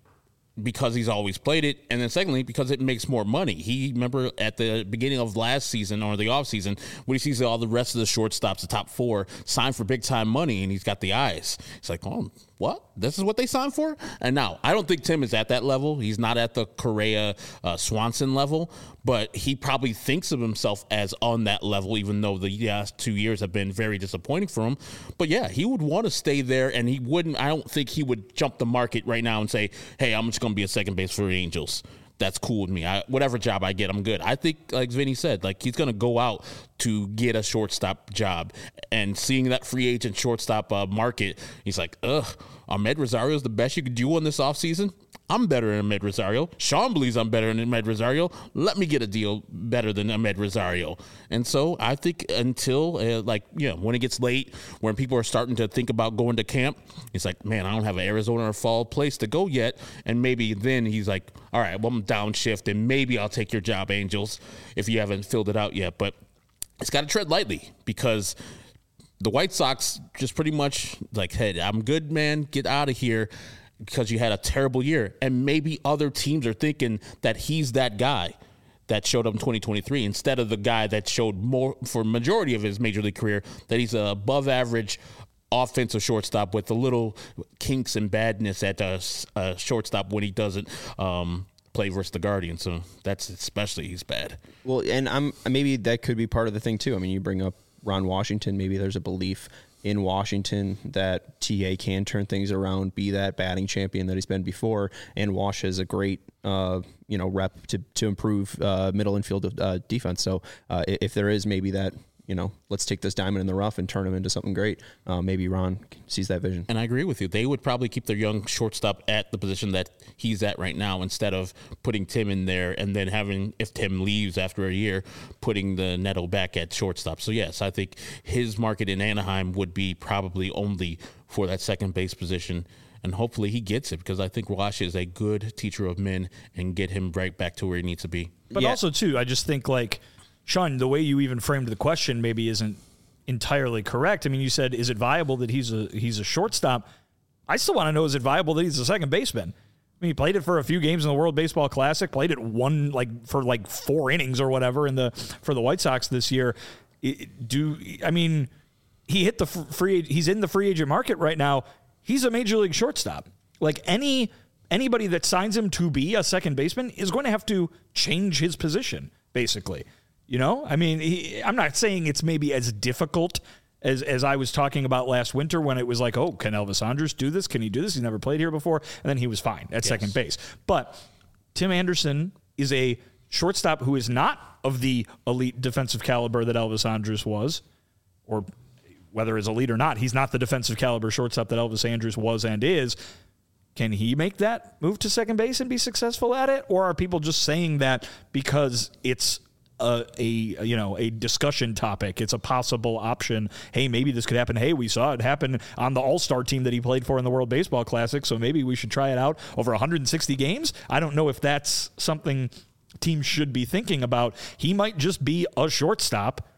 [SPEAKER 3] because he's always played it, and then secondly, because it makes more money. He, remember at the beginning of last season or the offseason, when he sees all the rest of the shortstops, the top four, signed for big-time money, and he's got the eyes. He's like, oh, what? This is what they signed for? And now, I don't think Tim is at that level. He's not at the Correa, uh, Swanson level, but he probably thinks of himself as on that level, even though the last two years have been very disappointing for him. But yeah, he would want to stay there, and he wouldn't, I don't think he would jump the market right now and say, hey, I'm just going to be a second base for the Angels. That's cool with me. I, whatever job I get, I'm good. I think, like Vinny said, like he's going to go out to get a shortstop job. And seeing that free agent shortstop uh, market, he's like, ugh, Ahmed Rosario is the best you could do on this offseason? I'm better than Ahmed Rosario. Sean believes I'm better than Ahmed Rosario. Let me get a deal better than Ahmed Rosario. And so I think until, uh, like, you know, when it gets late, when people are starting to think about going to camp, he's like, man, I don't have an Arizona or fall place to go yet. And maybe then he's like, all right, well, I'm downshift, and maybe I'll take your job, Angels, if you haven't filled it out yet. But it's got to tread lightly, because the White Sox just pretty much like, hey, I'm good, man. Get out of here, because you had a terrible year. And maybe other teams are thinking that he's that guy that showed up in twenty twenty-three instead of the guy that showed more for majority of his major league career, that he's a above average offensive shortstop with a little kinks and badness at a, a shortstop when he doesn't um, play versus the Guardians. So that's especially, he's bad.
[SPEAKER 1] Well, and I'm maybe that could be part of the thing too. I mean, you bring up Ron Washington. Maybe there's a belief in Washington that T A can turn things around, be that batting champion that he's been before, and Wash has a great, uh, you know, rep to to improve uh, middle infield uh, defense. So uh, if there is maybe that, you know, let's take this diamond in the rough and turn him into something great, uh, maybe Ron sees that vision.
[SPEAKER 3] And I agree with you. They would probably keep their young shortstop at the position that he's at right now, instead of putting Tim in there and then having, if Tim leaves after a year, putting the Neto back at shortstop. So yes, I think his market in Anaheim would be probably only for that second base position. And hopefully he gets it, because I think Wash is a good teacher of men and get him right back to where he needs to be.
[SPEAKER 2] But yeah. Also, too, I just think, like, Sean, the way you even framed the question maybe isn't entirely correct. I mean, you said, is it viable that he's a he's a shortstop? I still want to know, is it viable that he's a second baseman? I mean, he played it for a few games in the World Baseball Classic, played it one like for like four innings or whatever in the for the White Sox this year. It, do I mean, he hit the free he's in the free agent market right now. He's a major league shortstop. Like any anybody that signs him to be a second baseman is going to have to change his position, basically. You know, I mean, he, I'm not saying it's maybe as difficult as as I was talking about last winter, when it was like, oh, can Elvis Andrus do this? Can he do this? He's never played here before. And then he was fine at yes. second base. But Tim Anderson is a shortstop who is not of the elite defensive caliber that Elvis Andrus was, or whether it's elite or not, he's not the defensive caliber shortstop that Elvis Andrus was and is. Can he make that move to second base and be successful at it? Or are people just saying that because it's A, a you know a discussion topic? It's a possible option. Hey, maybe this could happen. Hey, we saw it happen on the All-Star team that he played for in the World Baseball Classic, so maybe we should try it out over one hundred sixty games. I don't know if that's something teams should be thinking about. He might just be a shortstop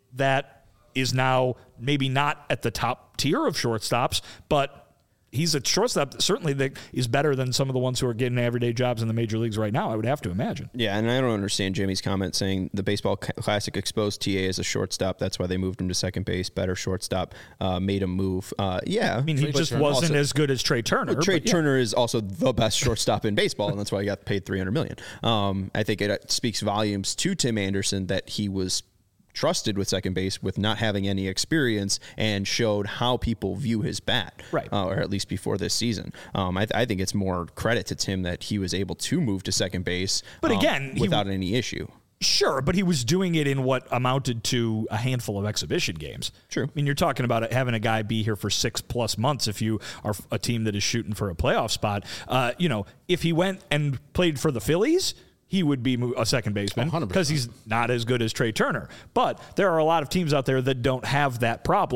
[SPEAKER 2] that is now maybe not at the top tier of shortstops, but he's a shortstop certainly that is better than some of the ones who are getting everyday jobs in the major leagues right now, I would have to imagine.
[SPEAKER 1] Yeah, and I don't understand Jimmy's comment saying the Baseball Classic exposed T A as a shortstop. That's why they moved him to second base. Better shortstop, uh, made him move. Uh, yeah.
[SPEAKER 2] I mean, he just wasn't also, as good as Trey Turner.
[SPEAKER 1] Well, Trey
[SPEAKER 2] yeah.
[SPEAKER 1] Turner is also the best shortstop in baseball, and that's why he got paid three hundred million dollars. Um, I think it speaks volumes to Tim Anderson that he was trusted with second base with not having any experience, and showed how people view his bat,
[SPEAKER 2] right?
[SPEAKER 1] Uh, or at least before this season. Um, I, th- I think it's more credit to Tim that he was able to move to second base,
[SPEAKER 2] but
[SPEAKER 1] um,
[SPEAKER 2] again,
[SPEAKER 1] without
[SPEAKER 2] w-
[SPEAKER 1] any issue.
[SPEAKER 2] Sure, but he was doing it in what amounted to a handful of exhibition games.
[SPEAKER 1] True.
[SPEAKER 2] I mean, you're talking about having a guy be here for six plus months if you are a team that is shooting for a playoff spot. Uh, you know, if he went and played for the Phillies, he would be a second baseman because he's not as good as Trey Turner. But there are a lot of teams out there that don't have that problem.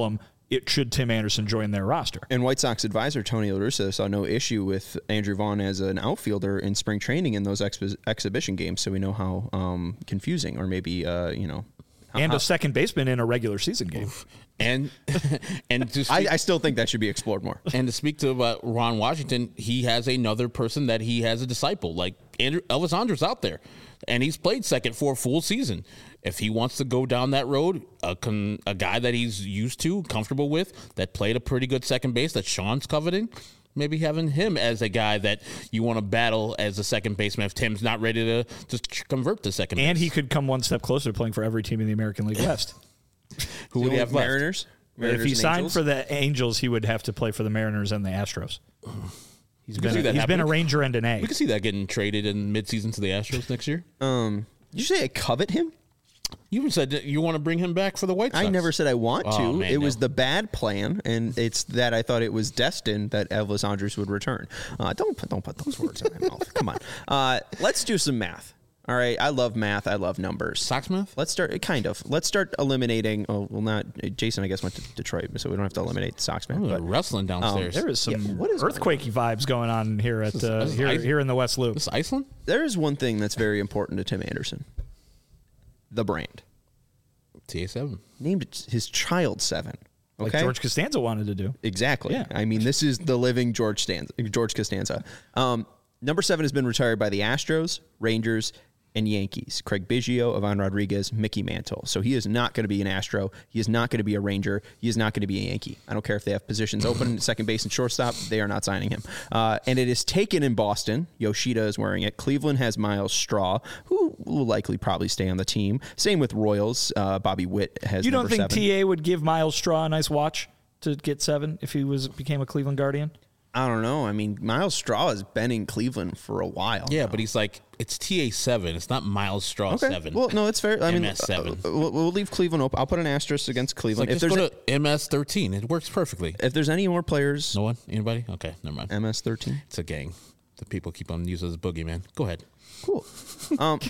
[SPEAKER 2] it should Tim Anderson join their roster.
[SPEAKER 1] And White Sox advisor Tony La Russa saw no issue with Andrew Vaughn as an outfielder in spring training in those expo- exhibition games. So we know how um, confusing, or maybe uh, you know, how,
[SPEAKER 2] and
[SPEAKER 1] how,
[SPEAKER 2] a second baseman in a regular season game.
[SPEAKER 3] And and to
[SPEAKER 1] I,
[SPEAKER 3] speak,
[SPEAKER 1] I still think that should be explored more.
[SPEAKER 3] and to speak to uh, Ron Washington, he has another person that he has a disciple. Like Andrew Elvis Andrus out there, and he's played second for a full season. If he wants to go down that road, a, con, a guy that he's used to, comfortable with, that played a pretty good second base that Sean's coveting, maybe having him as a guy that you want to battle as a second baseman if Tim's not ready to just convert to second base.
[SPEAKER 2] And he could come one step closer to playing for every team in the American League West.
[SPEAKER 3] Who would he have left?
[SPEAKER 1] Mariners? Mariners
[SPEAKER 2] If he
[SPEAKER 1] and
[SPEAKER 2] signed
[SPEAKER 1] Angels?
[SPEAKER 2] for the Angels, he would have to play for the Mariners and the Astros. He's
[SPEAKER 3] can
[SPEAKER 2] been
[SPEAKER 3] see
[SPEAKER 2] a,
[SPEAKER 3] that
[SPEAKER 2] he's been a
[SPEAKER 3] happening.
[SPEAKER 2] Ranger and an A.
[SPEAKER 3] We can see that getting traded in midseason to the Astros next year.
[SPEAKER 1] Um, did you say I covet him?
[SPEAKER 3] You even said that you want to bring him back for the White Sox.
[SPEAKER 1] I never said I want to.
[SPEAKER 3] Oh, man,
[SPEAKER 1] it was
[SPEAKER 3] no.
[SPEAKER 1] the bad plan, and it's that I thought it was destined that Elvis Andrus would return. Uh, don't put don't put those words in my mouth. Come on. Uh, let's do some math. All right. I love math. I love numbers.
[SPEAKER 3] Socksmith?
[SPEAKER 1] Let's start kind of. Let's start eliminating. Oh, well, not Jason. I guess went to Detroit, so we don't have to eliminate the Socksmith.
[SPEAKER 3] Oh,
[SPEAKER 1] But
[SPEAKER 3] wrestling downstairs.
[SPEAKER 2] There is some
[SPEAKER 1] Yeah, what is
[SPEAKER 2] earthquakey vibes going on here at uh,
[SPEAKER 3] this is
[SPEAKER 2] here
[SPEAKER 3] ice-
[SPEAKER 2] here in the West Loop.
[SPEAKER 3] This is Iceland?
[SPEAKER 1] there is one thing that's very important to Tim Anderson: the brand.
[SPEAKER 3] T A seven.
[SPEAKER 1] Named his child Seven.
[SPEAKER 2] Like
[SPEAKER 1] Okay.
[SPEAKER 2] George Costanza wanted to do.
[SPEAKER 1] Exactly.
[SPEAKER 2] Yeah.
[SPEAKER 1] I mean, this is the living George Stanza, George Costanza. Um, number seven has been retired by the Astros, Rangers, and Yankees. Craig Biggio, Ivan Rodriguez, Mickey Mantle. So he is not going to be an Astro. He is not going to be a Ranger. He is not going to be a Yankee. I don't care if they have positions open at second base and shortstop. They are not signing him. Uh, and it is taken in Boston. Yoshida is wearing it. Cleveland has Miles Straw, who will likely probably stay on the team. Same with Royals. Uh, Bobby Witt has
[SPEAKER 2] You don't
[SPEAKER 1] number
[SPEAKER 2] think
[SPEAKER 1] seven.
[SPEAKER 2] T A would give Miles Straw a nice watch to get seven if he was became a Cleveland Guardian?
[SPEAKER 1] I don't know. I mean, Miles Straw has been in Cleveland for a while.
[SPEAKER 3] Yeah,
[SPEAKER 1] now.
[SPEAKER 3] but he's like, it's T A seven. It's not Miles Straw
[SPEAKER 1] Okay.
[SPEAKER 3] seven.
[SPEAKER 1] Well, no, it's fair. I mean,
[SPEAKER 3] M S seven.
[SPEAKER 1] uh, we'll, we'll leave Cleveland open. I'll put an asterisk against
[SPEAKER 3] It's
[SPEAKER 1] Cleveland.
[SPEAKER 3] like,
[SPEAKER 1] if
[SPEAKER 3] just
[SPEAKER 1] there's
[SPEAKER 3] go
[SPEAKER 1] a,
[SPEAKER 3] to M S thirteen. It works perfectly.
[SPEAKER 1] if there's any more players,
[SPEAKER 3] No one? Anybody? Okay, never mind.
[SPEAKER 1] M S thirteen.
[SPEAKER 3] It's a gang. The people keep on using this boogeyman. Go ahead.
[SPEAKER 1] Cool. Um,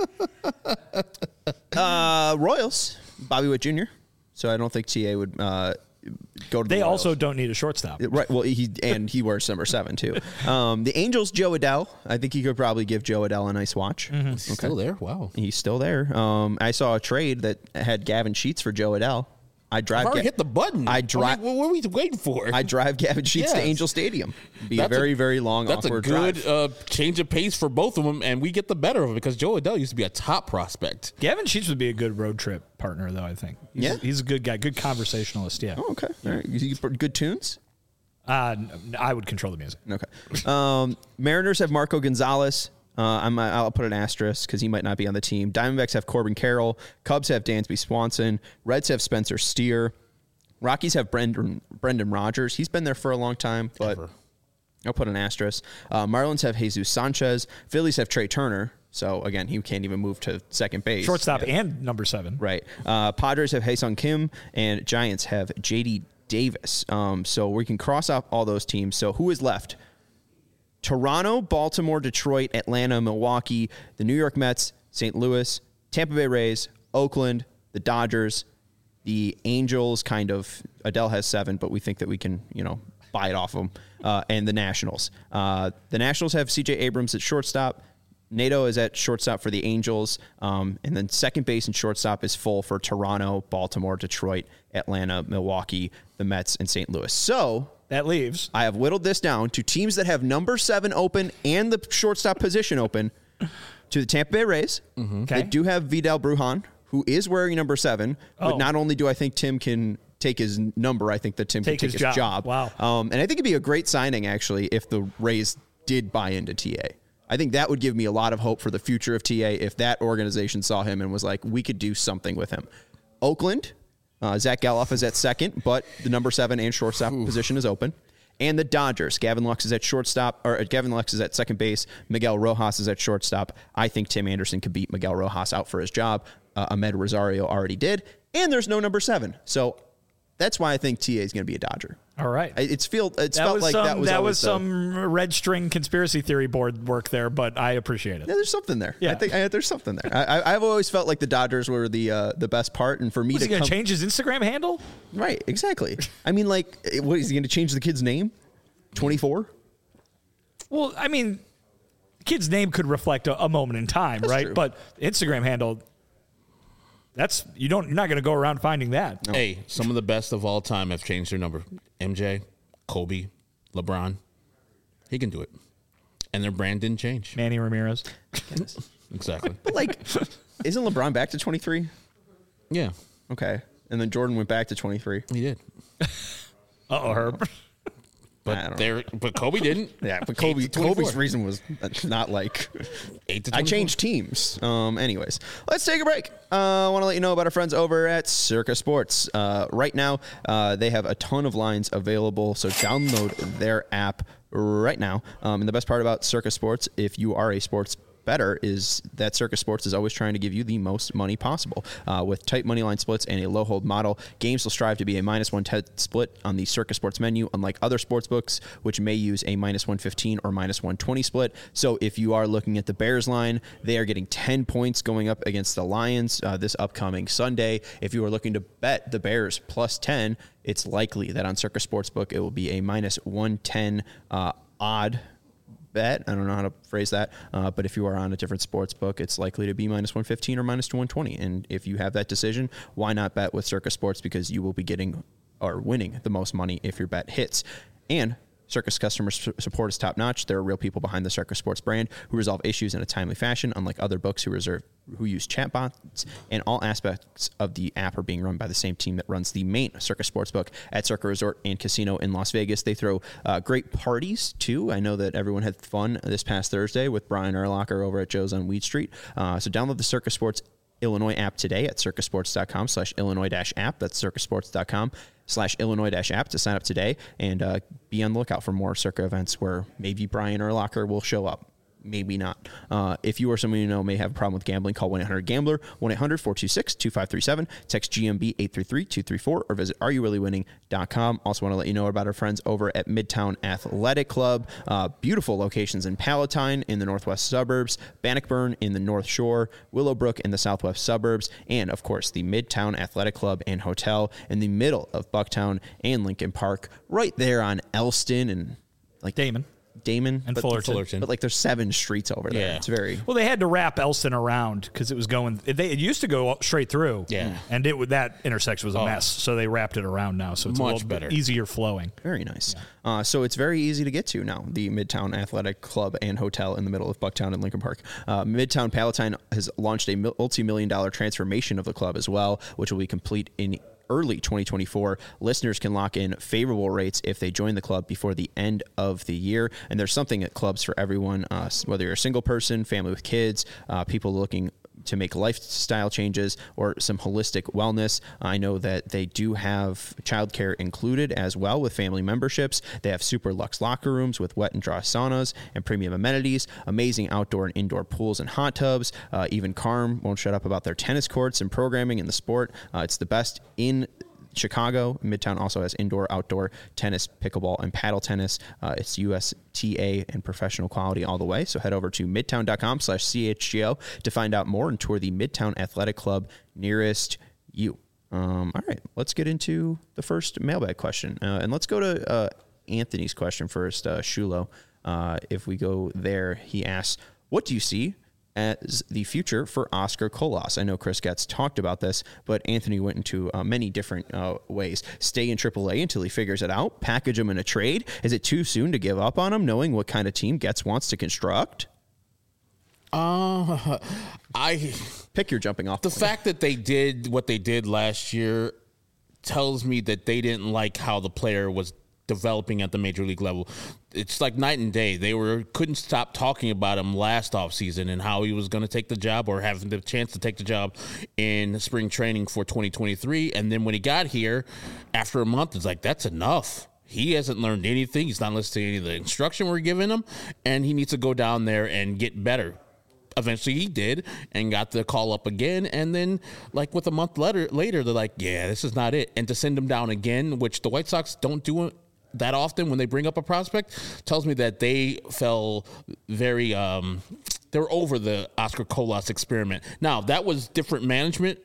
[SPEAKER 1] uh, Royals, Bobby Witt Junior So I don't think T A would uh, go to.
[SPEAKER 2] They
[SPEAKER 1] the Royals.
[SPEAKER 2] also don't need a shortstop.
[SPEAKER 1] Right. Well, he and he wears number seven too. Um, the Angels, Joe Adell. I think you could probably give Joe Adell a nice watch.
[SPEAKER 3] Is he still there? Wow.
[SPEAKER 1] He's still there. Um, I saw a trade that had Gavin Sheets for Joe Adell. I drive.
[SPEAKER 3] I've already
[SPEAKER 1] Ga-
[SPEAKER 3] hit the button.
[SPEAKER 1] I
[SPEAKER 3] I
[SPEAKER 1] drive.
[SPEAKER 3] mean, what are we waiting for?
[SPEAKER 1] I drive Gavin Sheets to
[SPEAKER 3] Yes.
[SPEAKER 1] Angel Stadium. Be a
[SPEAKER 3] That's
[SPEAKER 1] very, very long,
[SPEAKER 3] That's a
[SPEAKER 1] awkward
[SPEAKER 3] good
[SPEAKER 1] drive.
[SPEAKER 3] uh, change of pace for both of them, and we get the better of it because Joe Adell used to be a top prospect.
[SPEAKER 2] Gavin Sheets would be a good road trip partner, though, I think. He's,
[SPEAKER 1] Yeah?
[SPEAKER 2] He's a good guy, good conversationalist, yeah.
[SPEAKER 1] Oh, okay. All right. You- you put good tunes?
[SPEAKER 2] Uh, n- I would control the music.
[SPEAKER 1] Okay. Um, Mariners have Marco Gonzalez. Uh, I'm, I'll put an asterisk because he might not be on the team. Diamondbacks have Corbin Carroll. Cubs have Dansby Swanson. Reds have Spencer Steer. Rockies have Brendan, Brendan Rodgers. He's been there for a long time, but
[SPEAKER 3] Ever.
[SPEAKER 1] I'll put an asterisk. Uh, Marlins have Jesus Sanchez. Phillies have Trey Turner. So, again, he can't even move to second base.
[SPEAKER 2] Shortstop and number seven.
[SPEAKER 1] Right. Uh, Padres have Hae-Sung Kim, and Giants have J D Davis. Um, so we can cross off all those teams. So who is left? Toronto, Baltimore, Detroit, Atlanta, Milwaukee, the New York Mets, Saint Louis, Tampa Bay Rays, Oakland, the Dodgers, the Angels. Kind of. Adele has seven, but we think that we can, you know, buy it off them. Uh, and the Nationals. Uh, the Nationals have C J Abrams at shortstop. Nato is at shortstop for the Angels. Um, and then second base and shortstop is full for Toronto, Baltimore, Detroit, Atlanta, Milwaukee, the Mets, and Saint Louis. So
[SPEAKER 2] That leaves.
[SPEAKER 1] I have whittled this down to teams that have number seven open and the shortstop position open to the Tampa Bay Rays.
[SPEAKER 2] Okay.
[SPEAKER 1] They do have Vidal Brujan, who is wearing number seven. But
[SPEAKER 2] Oh.
[SPEAKER 1] not only do I think Tim can take his number, I think that Tim
[SPEAKER 2] Take
[SPEAKER 1] can take
[SPEAKER 2] his
[SPEAKER 1] his,
[SPEAKER 2] job.
[SPEAKER 1] job.
[SPEAKER 2] Wow.
[SPEAKER 1] Um, and I think it'd be a great signing, actually, if the Rays did buy into T A. I think that would give me a lot of hope for the future of T A if that organization saw him and was like, we could do something with him. Oakland, uh, Zach Galoff is at second, but the number seven and shortstop position is open. And the Dodgers, Gavin Lux is at shortstop, or Gavin Lux is at second base. Miguel Rojas is at shortstop. I think Tim Anderson could beat Miguel Rojas out for his job. Uh, Ahmed Rosario already did. And there's no number seven. So that's why I think T A is going to be a Dodger.
[SPEAKER 2] All right.
[SPEAKER 1] It's feel it's
[SPEAKER 2] that
[SPEAKER 1] felt
[SPEAKER 2] was
[SPEAKER 1] like
[SPEAKER 2] some,
[SPEAKER 1] that was
[SPEAKER 2] that
[SPEAKER 1] always
[SPEAKER 2] was
[SPEAKER 1] the,
[SPEAKER 2] some red string conspiracy theory board work there, but I appreciate it.
[SPEAKER 1] Yeah, there's something there.
[SPEAKER 2] Yeah.
[SPEAKER 1] I think I, there's something there. I, I, I've always felt like the Dodgers were the uh, the best part, and for me
[SPEAKER 2] Was
[SPEAKER 1] to
[SPEAKER 2] he going to
[SPEAKER 1] come,
[SPEAKER 2] change his Instagram handle?
[SPEAKER 1] right, exactly. I mean, like, what is he going to change the kid's name? twenty-four.
[SPEAKER 2] Well, I mean, kid's name could reflect a, a moment in time,
[SPEAKER 1] That's
[SPEAKER 2] right?
[SPEAKER 1] true.
[SPEAKER 2] But Instagram handle, that's you don't you're not going to go around finding that.
[SPEAKER 1] No.
[SPEAKER 3] Hey, some of the best of all time have changed their number. M J, Kobe, LeBron. He can do it. And their brand didn't change.
[SPEAKER 2] Manny Ramirez.
[SPEAKER 3] Exactly.
[SPEAKER 1] But like, isn't LeBron back to twenty-three?
[SPEAKER 3] Yeah,
[SPEAKER 1] Okay, and then Jordan went back to twenty-three.
[SPEAKER 3] he did.
[SPEAKER 2] Uh-oh, Herb.
[SPEAKER 1] I
[SPEAKER 3] But
[SPEAKER 1] don't
[SPEAKER 3] there, but Kobe didn't.
[SPEAKER 1] Yeah, but
[SPEAKER 3] Eight
[SPEAKER 1] Kobe
[SPEAKER 3] to twenty-four.
[SPEAKER 1] Kobe's reason was not like
[SPEAKER 3] Eight to
[SPEAKER 1] I
[SPEAKER 3] twenty-four.
[SPEAKER 1] changed teams. Um, anyways, let's take a break. Uh, I want to let you know about our friends over at Circa Sports. Uh, right now, uh, they have a ton of lines available, so download their app right now. Um, and the best part about Circa Sports, if you are a sports better, is that Circa Sports is always trying to give you the most money possible. Uh, with tight money line splits and a low hold model, games will strive to be a minus one ten split on the Circa Sports menu, unlike other sports books, which may use a minus one fifteen or minus one twenty split. So if you are looking at the Bears line, they are getting ten points going up against the Lions uh, this upcoming Sunday. If you are looking to bet the Bears plus ten, it's likely that on Circa Sportsbook it will be a minus one ten uh, odd bet. I don't know how to phrase that, uh, but if you are on a different sports book, it's likely to be minus one fifteen or minus one twenty. And if you have that decision, why not bet with Circa Sports? Because you will be getting or winning the most money if your bet hits. And Circus customer su- support is top notch. There are real people behind the Circus Sports brand who resolve issues in a timely fashion, unlike other books who reserve who use chatbots. And all aspects of the app are being run by the same team that runs the main Circus Sports book at Circa Resort and Casino in Las Vegas. They throw uh, great parties too. I know that everyone had fun this past Thursday with Brian Urlacher over at Joe's on Weed Street. Uh, so download the Circus Sports Illinois app today at circusports.com slash Illinois dash app. That's circusports.com slash Illinois dash app to sign up today, and uh, be on the lookout for more Circa events where maybe Brian Urlacher will show up. Maybe not. Uh, if you or someone you know may have a problem with gambling, call one eight hundred gambler, one eight hundred four two six two five three seven, text G M B eight three three two three four, or visit are you really winning dot com. Also want to let you know about our friends over at Midtown Athletic Club. Uh, beautiful locations in Palatine in the northwest suburbs, Bannockburn in the North Shore, Willowbrook in the southwest suburbs, and of course the Midtown Athletic Club and Hotel in the middle of Bucktown and Lincoln Park, right there on Elston and like
[SPEAKER 2] Damon.
[SPEAKER 1] Damon
[SPEAKER 2] And
[SPEAKER 1] but,
[SPEAKER 2] Fullerton.
[SPEAKER 3] Fullerton.
[SPEAKER 1] But like there's seven streets over there.
[SPEAKER 3] Yeah.
[SPEAKER 1] It's very
[SPEAKER 2] Well, they had to wrap Elston around because it was going. They, it used to go straight through.
[SPEAKER 3] Yeah.
[SPEAKER 2] And it would- that intersection was a
[SPEAKER 3] Oh.
[SPEAKER 2] mess, so they wrapped it around now, so it's
[SPEAKER 3] Much
[SPEAKER 2] a little
[SPEAKER 3] better.
[SPEAKER 2] bit easier flowing.
[SPEAKER 1] Very nice. Uh, so it's very easy to get to now, the Midtown Athletic Club and Hotel in the middle of Bucktown and Lincoln Park. Uh, Midtown Palatine has launched a multi-million dollar transformation of the club as well, which will be complete in early twenty twenty-four. Listeners can lock in favorable rates if they join the club before the end of the year. And there's something at clubs for everyone, uh, whether you're a single person, family with kids, uh, people looking to make lifestyle changes or some holistic wellness. I know that they do have childcare included as well with family memberships. They have super luxe locker rooms with wet and dry saunas and premium amenities, amazing outdoor and indoor pools and hot tubs. Uh, even Carm won't shut up about their tennis courts and programming in the sport. Uh, it's the best in Chicago. Midtown also has indoor, outdoor tennis, pickleball, and paddle tennis. Uh, it's U S T A and professional quality all the way. So head over to midtown.com slash CHGO to find out more and tour the Midtown Athletic Club nearest you. Um, all right, let's get into the first mailbag question. Uh, and let's go to uh, Anthony's question first, uh, Shulo. Uh, if we go there, he asks, what do you see as the future for Oscar Colas? I know Chris Getz talked about this, but Anthony went into uh, many different uh, ways. Stay in triple A until he figures it out. Package him in a trade. Is it too soon to give up on him, knowing what kind of team Getz wants to construct?
[SPEAKER 3] Uh, I
[SPEAKER 1] Pick your jumping off
[SPEAKER 3] the
[SPEAKER 1] point.
[SPEAKER 3] fact that they did what they did last year tells me that they didn't like how the player was developing at the major league level. It's like night and day. They were couldn't stop talking about him last offseason and how he was going to take the job or having the chance to take the job in spring training for twenty twenty-three. And then when he got here, after a month, it's like, that's enough. He hasn't learned anything. He's not listening to any of the instruction we're giving him, and he needs to go down there and get better. Eventually he did and got the call up again. And then like with a month later, later, they're like, yeah, this is not it. And to send him down again, which the White Sox don't do that often when they bring up a prospect tells me that they fell very um, they were over the Oscar Colas experiment. Now, that was different management,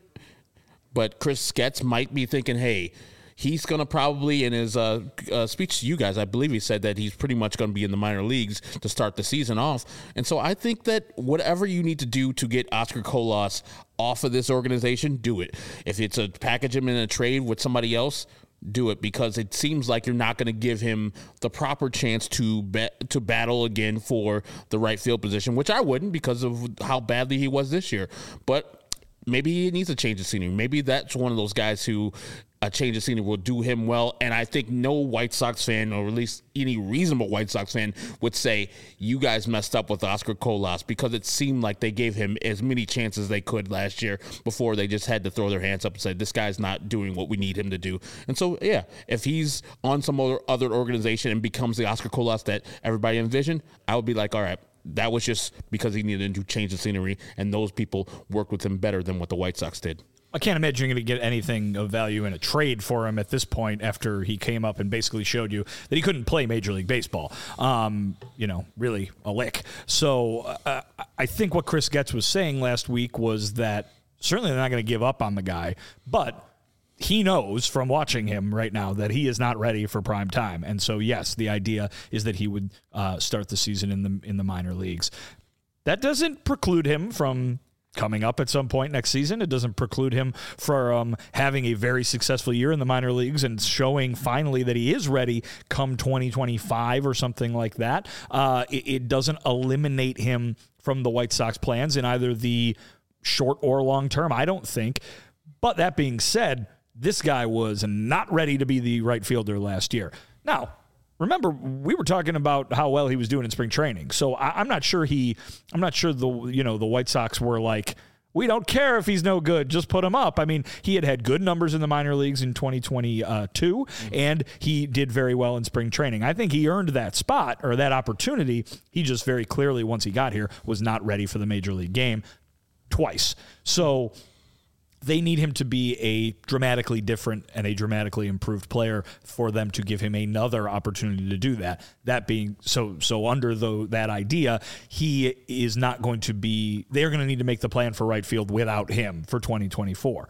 [SPEAKER 3] but Chris Getz might be thinking, hey, he's going to probably, in his uh, uh, speech to you guys, I believe he said that he's pretty much going to be in the minor leagues to start the season off. And so I think that whatever you need to do to get Oscar Colas off of this organization, do it. If it's a package him in a trade with somebody else, do it, because it seems like you're not going to give him the proper chance to bet, to battle again for the right field position, which I wouldn't because of how badly he was this year. But maybe he needs a change of scenery. Maybe that's one of those guys who a change of scenery will do him well. And I think no White Sox fan, or at least any reasonable White Sox fan, would say, you guys messed up with Oscar Colas, because it seemed like they gave him as many chances as they could last year before they just had to throw their hands up and say, this guy's not doing what we need him to do. And so, yeah, if he's on some other, other organization and becomes the Oscar Colas that everybody envisioned, I would be like, all right, that was just because he needed to change the scenery, and those people worked with him better than what the White Sox did.
[SPEAKER 2] I can't imagine you're going to get anything of value in a trade for him at this point after he came up and basically showed you that he couldn't play Major League Baseball, um, you know, really a lick. So uh, I think what Chris Getz was saying last week was that certainly they're not going to give up on the guy, but he knows from watching him right now that he is not ready for prime time. And so, yes, the idea is that he would uh, start the season in the in the minor leagues. That doesn't preclude him from coming up at some point next season. It doesn't preclude him from um, having a very successful year in the minor leagues and showing finally that he is ready come twenty twenty-five or something like that. Uh, it, it doesn't eliminate him from the White Sox plans in either the short or long term, I don't think. But that being said, this guy was not ready to be the right fielder last year. Now, remember, we were talking about how well he was doing in spring training. So I, I'm not sure he, I'm not sure the, you know, the White Sox were like, we don't care if he's no good, just put him up. I mean, he had had good numbers in the minor leagues in twenty twenty-two, mm-hmm. and he did very well in spring training. I think he earned that spot or that opportunity. He just very clearly, once he got here, was not ready for the major league game twice. So they need him to be a dramatically different and a dramatically improved player for them to give him another opportunity to do that. That being so, so under the, that idea, he is not going to be, they're going to need to make the plan for right field without him for twenty twenty-four.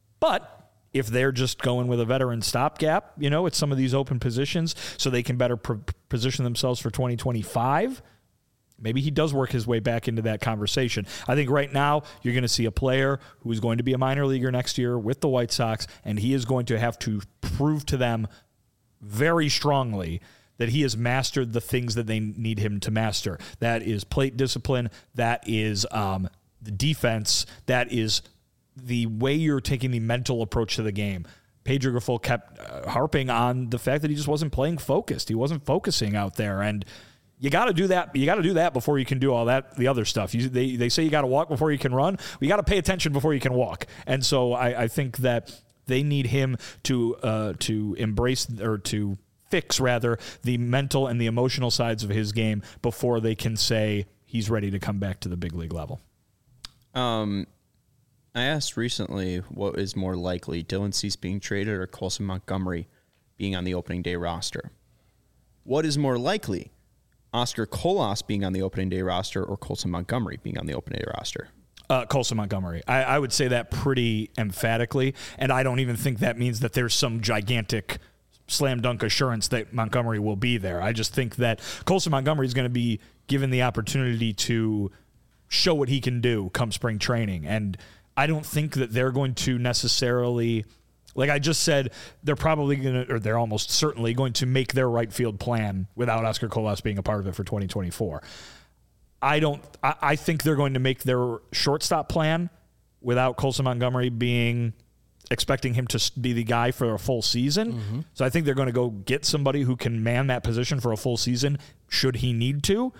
[SPEAKER 2] But if they're just going with a veteran stopgap, you know, at some of these open positions so they can better pr- position themselves for twenty twenty-five, maybe he does work his way back into that conversation. I think right now you're going to see a player who is going to be a minor leaguer next year with the White Sox, and he is going to have to prove to them very strongly that he has mastered the things that they need him to master. That is plate discipline. That is um, the defense. That is the way you're taking the mental approach to the game. Pedro Grifol kept uh, harping on the fact that he just wasn't playing focused. He wasn't focusing out there, and You got to do that. You got to do that before you can do all that, the other stuff. You, they they say you got to walk before you can run. Well, you got to pay attention before you can walk. And so I, I think that they need him to uh, to embrace or to fix rather the mental and the emotional sides of his game before they can say he's ready to come back to the big league level.
[SPEAKER 1] Um, I asked recently what is more likely, Dylan Cease being traded or Colson Montgomery being on the opening day roster. What is more likely? Oscar Colas being on the opening day roster or Colson Montgomery being on the opening day roster?
[SPEAKER 2] Uh, Colson Montgomery. I, I would say that pretty emphatically, and I don't even think that means that there's some gigantic slam dunk assurance that Montgomery will be there. I just think that Colson Montgomery is going to be given the opportunity to show what he can do come spring training, and I don't think that they're going to necessarily... Like I just said, they're probably going to, or they're almost certainly going to make their right field plan without Oscar Colas being a part of it for twenty twenty-four. I don't, I, I think they're going to make their shortstop plan without Colson Montgomery being, expecting him to be the guy for a full season. Mm-hmm. So I think they're going to go get somebody who can man that position for a full season should he need to.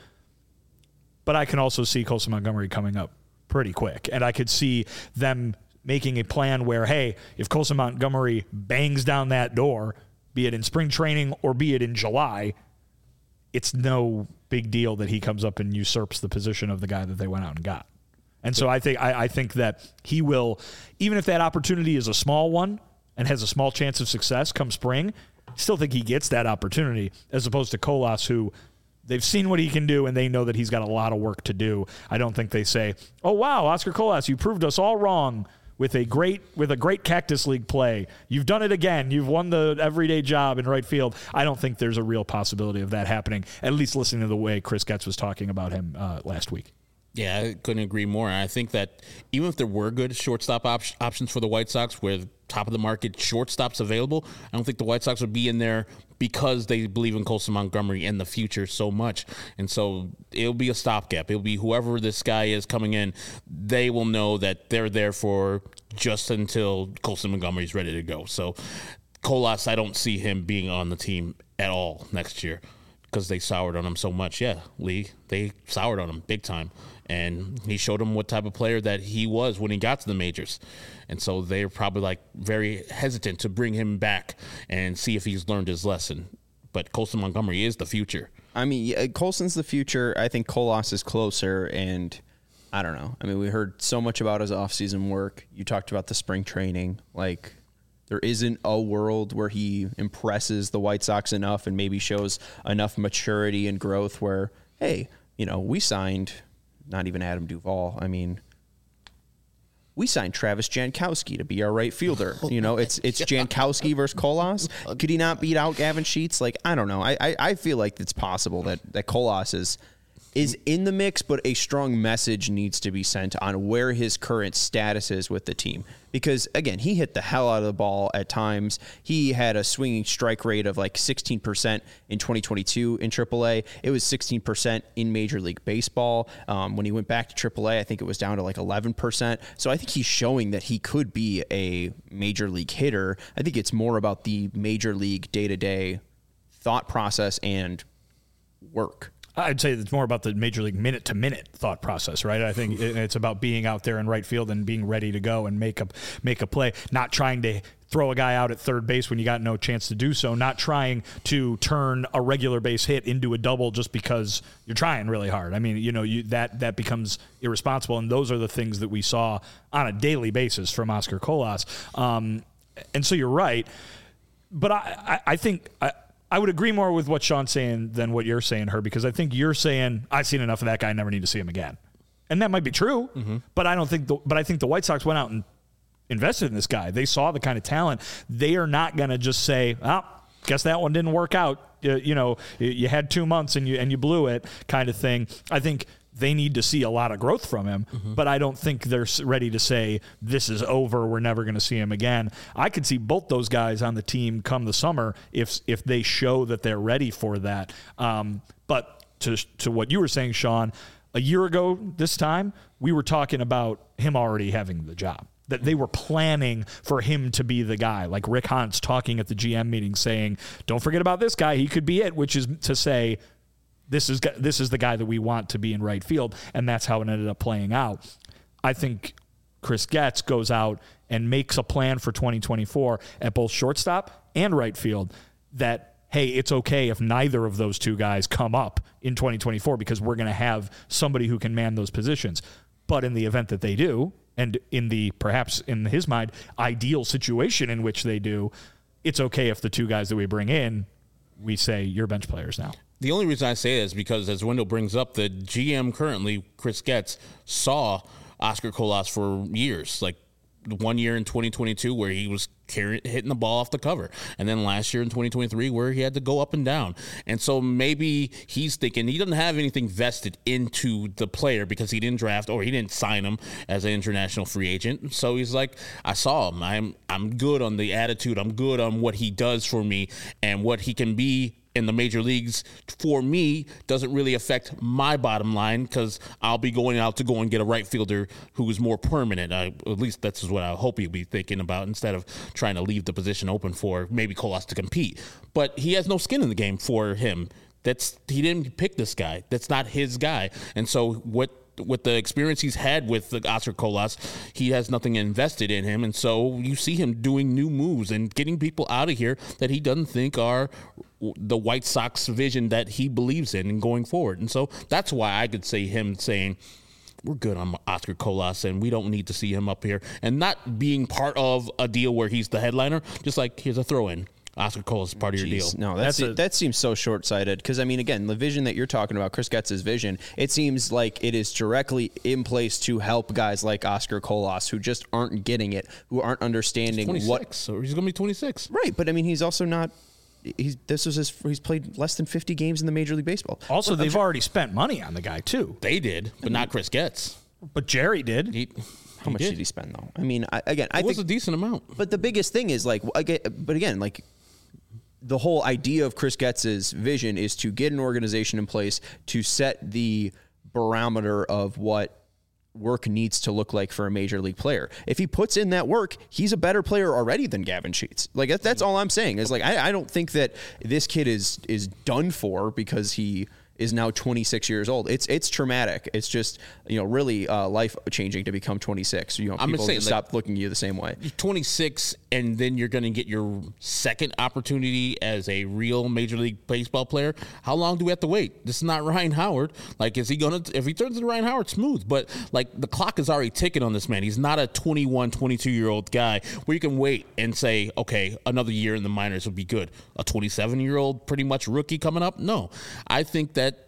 [SPEAKER 2] But I can also see Colson Montgomery coming up pretty quick. And I could see them making a plan where, hey, if Colson Montgomery bangs down that door, be it in spring training or be it in July, it's no big deal that he comes up and usurps the position of the guy that they went out and got. And so I think I, I think that he will, even if that opportunity is a small one and has a small chance of success come spring, still think he gets that opportunity as opposed to Colas, who they've seen what he can do and they know that he's got a lot of work to do. I don't think they say, oh, wow, Oscar Colas, you proved us all wrong with a great with a great Cactus League play. You've done it again. You've won the everyday job in right field. I don't think there's a real possibility of that happening, at least listening to the way Chris Getz was talking about him uh, last week.
[SPEAKER 3] Yeah, I couldn't agree more. I think that even if there were good shortstop op- options for the White Sox with top of the market shortstops available, I don't think the White Sox would be in there because they believe in Colson Montgomery in the future so much. And so it'll be a stopgap. It'll be whoever this guy is coming in, they will know that they're there for just until Colson Montgomery's ready to go. So Colas, I don't see him being on the team at all next year because they soured on him so much. Yeah, Lee, they soured on him big time. And he showed them what type of player that he was when he got to the majors. And so they're probably like very hesitant to bring him back and see if he's learned his lesson. But Colson Montgomery is the future.
[SPEAKER 1] I mean, yeah, Colson's the future. I think Colas is closer, and I don't know. I mean, we heard so much about his offseason work. You talked about the spring training. Like, there isn't a world where he impresses the White Sox enough and maybe shows enough maturity and growth where, hey, you know, we signed – not even Adam Duvall. I mean, we signed Travis Jankowski to be our right fielder. You know, it's it's Jankowski versus Colas. Could he not beat out Gavin Sheets? Like, I don't know. I, I, I feel like it's possible that, that Colas is is in the mix, but a strong message needs to be sent on where his current status is with the team. Because, again, he hit the hell out of the ball at times. He had a swinging strike rate of like sixteen percent in twenty twenty-two in triple A. It was sixteen percent in Major League Baseball. Um, when he went back to triple A, I think it was down to like eleven percent. So I think he's showing that he could be a Major League hitter. I think it's more about the Major League day-to-day thought process and work.
[SPEAKER 2] I'd say it's more about the Major League minute-to-minute thought process, right? I think it's about being out there in right field and being ready to go and make a make a play, not trying to throw a guy out at third base when you got no chance to do so, not trying to turn a regular base hit into a double just because you're trying really hard. I mean, you know, you, that that becomes irresponsible, and those are the things that we saw on a daily basis from Oscar Colas. Um, and so you're right, but I, I, I think I, I would agree more with what Sean's saying than what you're saying, Herb, because I think you're saying, I've seen enough of that guy, I never need to see him again. And that might be true, mm-hmm. but I don't think the, but I think the White Sox went out and invested in this guy. They saw the kind of talent. They are not going to just say, oh, guess that one didn't work out. You, you know, you had two months and you and you blew it kind of thing. I think they need to see a lot of growth from him, mm-hmm. but I don't think they're ready to say this is over, we're never going to see him again. I could see both those guys on the team come the summer if if they show that they're ready for that. Um, but to to what you were saying, Sean, a year ago this time, we were talking about him already having the job, that they were planning for him to be the guy, like Rick Hahn talking at the G M meeting saying, don't forget about this guy, he could be it, which is to say, This is this is the guy that we want to be in right field, and that's how it ended up playing out. I think Chris Getz goes out and makes a plan for twenty twenty-four at both shortstop and right field that, hey, it's okay if neither of those two guys come up in twenty twenty-four because we're going to have somebody who can man those positions. But in the event that they do, and in the, perhaps in his mind, ideal situation in which they do, it's okay if the two guys that we bring in, we say, you're bench players now.
[SPEAKER 3] The only reason I say that is because, as Wendell brings up, the G M currently, Chris Getz, saw Oscar Colas for years. Like one year in twenty twenty-two where he was carrying, hitting the ball off the cover. And then last year in twenty twenty-three where he had to go up and down. And so maybe he's thinking he doesn't have anything vested into the player because he didn't draft or he didn't sign him as an international free agent. So he's like, I saw him. I'm, I'm good on the attitude. I'm good on what he does for me and what he can be in the major leagues for me doesn't really affect my bottom line because I'll be going out to go and get a right fielder who is more permanent. I, at least that's what I hope he'll be thinking about instead of trying to leave the position open for maybe Colas to compete. But he has no skin in the game for him. That's he didn't pick this guy. That's not his guy. And so what with the experience he's had with the Oscar Colas, he has nothing invested in him. And so you see him doing new moves and getting people out of here that he doesn't think are the White Sox vision that he believes in and going forward. And so that's why I could say him saying, we're good on Oscar Colas and we don't need to see him up here, and not being part of a deal where he's the headliner, just like here's a throw in. Oscar Colas is part of your
[SPEAKER 1] Jeez,
[SPEAKER 3] deal.
[SPEAKER 1] No, that's,
[SPEAKER 2] That's a-
[SPEAKER 1] that seems so short-sighted. Because I mean, again, the vision that you're talking about, Chris Getz's vision, it seems like it is directly in place to help guys like Oscar Colas who just aren't getting it, who aren't understanding
[SPEAKER 3] twenty-six,
[SPEAKER 1] what.
[SPEAKER 3] so he's going to be twenty-six.
[SPEAKER 1] Right, but I mean, he's also not. He's this was his. He's played less than fifty games in the Major League Baseball.
[SPEAKER 2] Also,
[SPEAKER 1] Well, I'm
[SPEAKER 2] they've
[SPEAKER 1] sure-
[SPEAKER 2] already spent money on the guy too.
[SPEAKER 3] They did, but not Chris Getz.
[SPEAKER 2] But Jerry did.
[SPEAKER 3] He,
[SPEAKER 1] How much did. he spend though? I mean, I, again, I
[SPEAKER 3] It was
[SPEAKER 1] think
[SPEAKER 3] a decent amount.
[SPEAKER 1] But the biggest thing is like, again, but again, like the whole idea of Chris Getz's vision is to get an organization in place to set the barometer of what work needs to look like for a major league player. If he puts in that work, he's a better player already than Gavin Sheets. Like that's, that's all I'm saying is like, I, I don't think that this kid is, is done for because he is now twenty-six years old. It's it's traumatic. It's just, you know, really uh, life changing to become twenty-six. You know,
[SPEAKER 3] I'm
[SPEAKER 1] people
[SPEAKER 3] saying,
[SPEAKER 1] just
[SPEAKER 3] like,
[SPEAKER 1] stop looking at you the same way.
[SPEAKER 3] twenty-six, and then you're going to get your second opportunity as a real Major League Baseball player. How long do we have to wait? This is not Ryan Howard. Like, is he going to, if he turns into Ryan Howard, smooth. But, like, the clock is already ticking on this man. He's not a twenty-one, twenty-two-year-old guy where you can wait and say, okay, another year in the minors would be good. A twenty-seven-year-old pretty much rookie coming up? No. I think that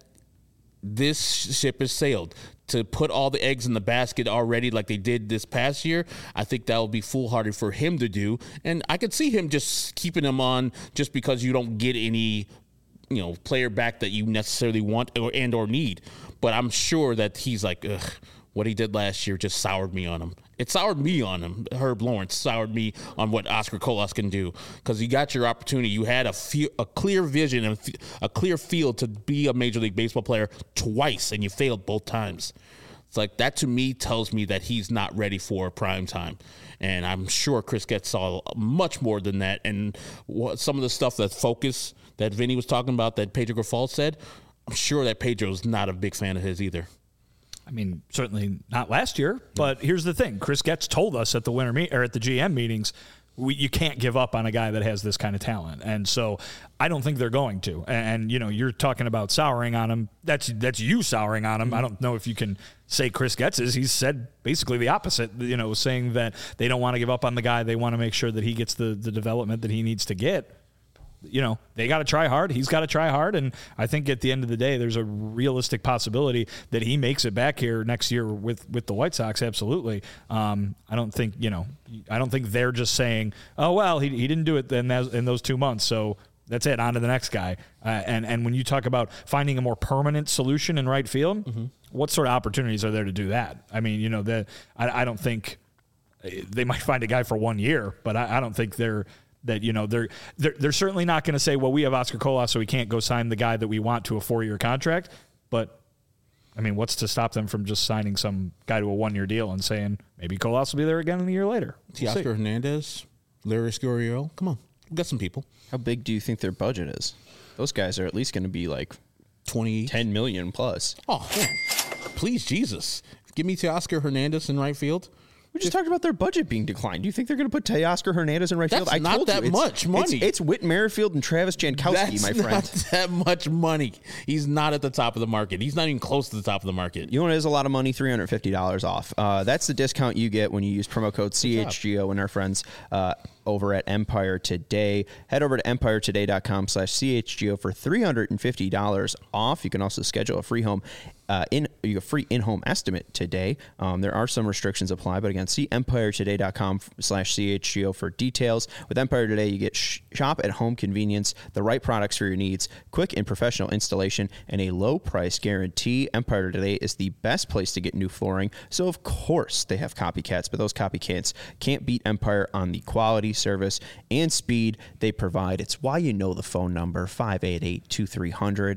[SPEAKER 3] this ship has sailed. To put all the eggs in the basket already like they did this past year, I think that would be foolhardy for him to do. And I could see him just keeping him on just because you don't get any, you know, player back that you necessarily want or and or need. But I'm sure that he's like, ugh, what he did last year just soured me on him. It soured me on him. Herb Lawrence soured me on what Oscar Colas can do because you got your opportunity. You had a, fe- a clear vision and a clear field to be a Major League Baseball player twice, and you failed both times. It's like that to me tells me that he's not ready for prime time. And I'm sure Chris Getz saw much more than that. And what, some of the stuff that focus that Vinny was talking about that Pedro Grifol said, I'm sure that Pedro's not a big fan of his either.
[SPEAKER 2] I mean, certainly not last year, but here's the thing. Chris Getz told us at the winter meet or at the G M meetings, we, you can't give up on a guy that has this kind of talent. And so I don't think they're going to. And, and you know, you're talking about souring on him. That's that's you souring on him. Mm-hmm. I don't know if you can say Chris Getz is. He's said basically the opposite, you know, saying that they don't want to give up on the guy. They want to make sure that he gets the, the development that he needs to get. You know, they got to try hard. He's got to try hard. And I think at the end of the day, there's a realistic possibility that he makes it back here next year with, with the White Sox. Absolutely. Um, I don't think, you know, I don't think they're just saying, oh, well, he, he didn't do it in, that, in those two months. So that's it. On to the next guy. Uh, and, and when you talk about finding a more permanent solution in right field, mm-hmm. what sort of opportunities are there to do that? I mean, you know, the, I, I don't think they might find a guy for one year, but I, I don't think they're, that, you know, they're they're, they're certainly not going to say, well, we have Oscar Colas, so we can't go sign the guy that we want to a four-year contract. But, I mean, what's to stop them from just signing some guy to a one-year deal and saying, maybe Colas will be there again in a year later?
[SPEAKER 3] We'll Oscar Hernandez, Larry Scurriero. Come on. We've got some people.
[SPEAKER 1] How big do you think their budget is? Those guys are at least going to be like
[SPEAKER 3] twenty,
[SPEAKER 1] ten million plus.
[SPEAKER 3] Oh, man. Please, Jesus. Give me Teoscar Hernandez in right field.
[SPEAKER 1] We just if, talked about their budget being declined. Do you think they're going to put Teoscar Hernandez in right
[SPEAKER 3] that's
[SPEAKER 1] field? I
[SPEAKER 3] not
[SPEAKER 1] told
[SPEAKER 3] that
[SPEAKER 1] you, it's,
[SPEAKER 3] much money.
[SPEAKER 1] It's, it's Whit Merrifield and Travis Jankowski,
[SPEAKER 3] that's
[SPEAKER 1] my friend.
[SPEAKER 3] That's not that much money. He's not at the top of the market. He's not even close to the top of the market.
[SPEAKER 1] You know what is a lot of money? three hundred fifty dollars off. Uh, that's the discount you get when you use promo code C H G O and our friends uh, over at Empire Today. Head over to empire today dot com slash C H G O for three hundred fifty dollars off. You can also schedule a free home uh, in you a free in-home estimate today. Um, there are some restrictions apply, but again, see empire today dot com slash C H G O for details. With Empire Today, you get sh- shop at home convenience, the right products for your needs, quick and professional installation, and a low price guarantee. Empire Today is the best place to get new flooring. So of course they have copycats, but those copycats can't beat Empire on the quality, service, and speed they provide. It's why you know the phone number, five eight eight, two three zero zero.